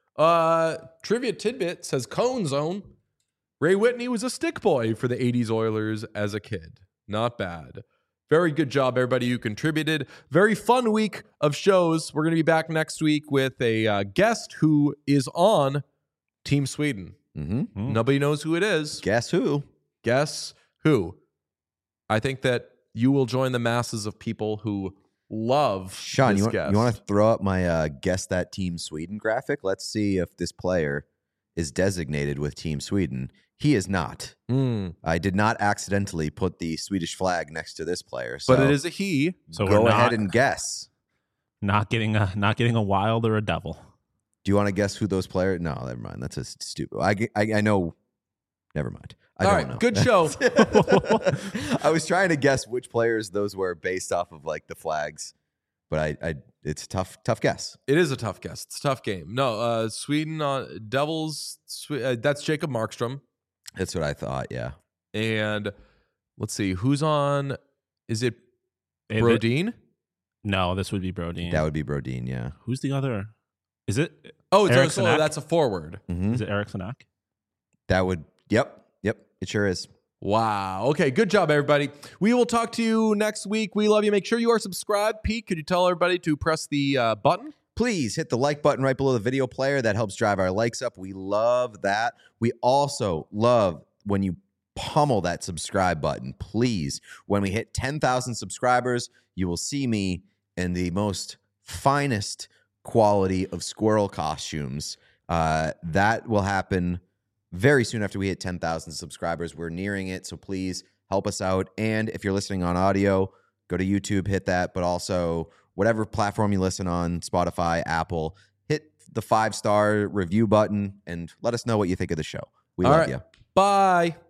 Trivia tidbit says Cone Zone. Ray Whitney was a stick boy for the 80s Oilers as a kid. Not bad. Very good job, everybody who contributed. Very fun week of shows. We're going to be back next week with a guest who is on Team Sweden. Nobody knows who it is. Guess who? Guess who? I think that you will join the masses of people who love Sean, this you guest. want to throw up my Guess That Team Sweden graphic? Let's see if this player is designated with Team Sweden. He is not. I did not accidentally put the Swedish flag next to this player. So but it is a he. So go ahead and guess. Not getting a Wild or a Devil. Do you want to guess who those players? No, never mind. That's a stupid. I know. Never mind. I All don't right, know. good show. I was trying to guess which players those were based off of like the flags, but it's a tough guess. It is a tough guess. It's a tough game. No, Sweden on Devils. That's Jacob Markstrom. That's what I thought. Yeah. And let's see who's on. Is it Brodin? No, this would be Brodin. That would be Brodin. Yeah. Who's the other? Is it? Oh, it's Eric Sanak? that's a forward. Is it Eric Sanak? That would. Yep. It sure is. Wow. Okay. Good job, everybody. We will talk to you next week. We love you. Make sure you are subscribed. Pete, could you tell everybody to press the button? Please hit the like button right below the video player. That helps drive our likes up. We love that. We also love when you pummel that subscribe button. Please, when we hit 10,000 subscribers, you will see me in the most finest quality of squirrel costumes. That will happen very soon after we hit 10,000 subscribers. We're nearing it, so please help us out. And if you're listening on audio, go to YouTube, hit that, but also whatever platform you listen on, Spotify, Apple, hit the 5-star review button and let us know what you think of the show. We love you. Bye.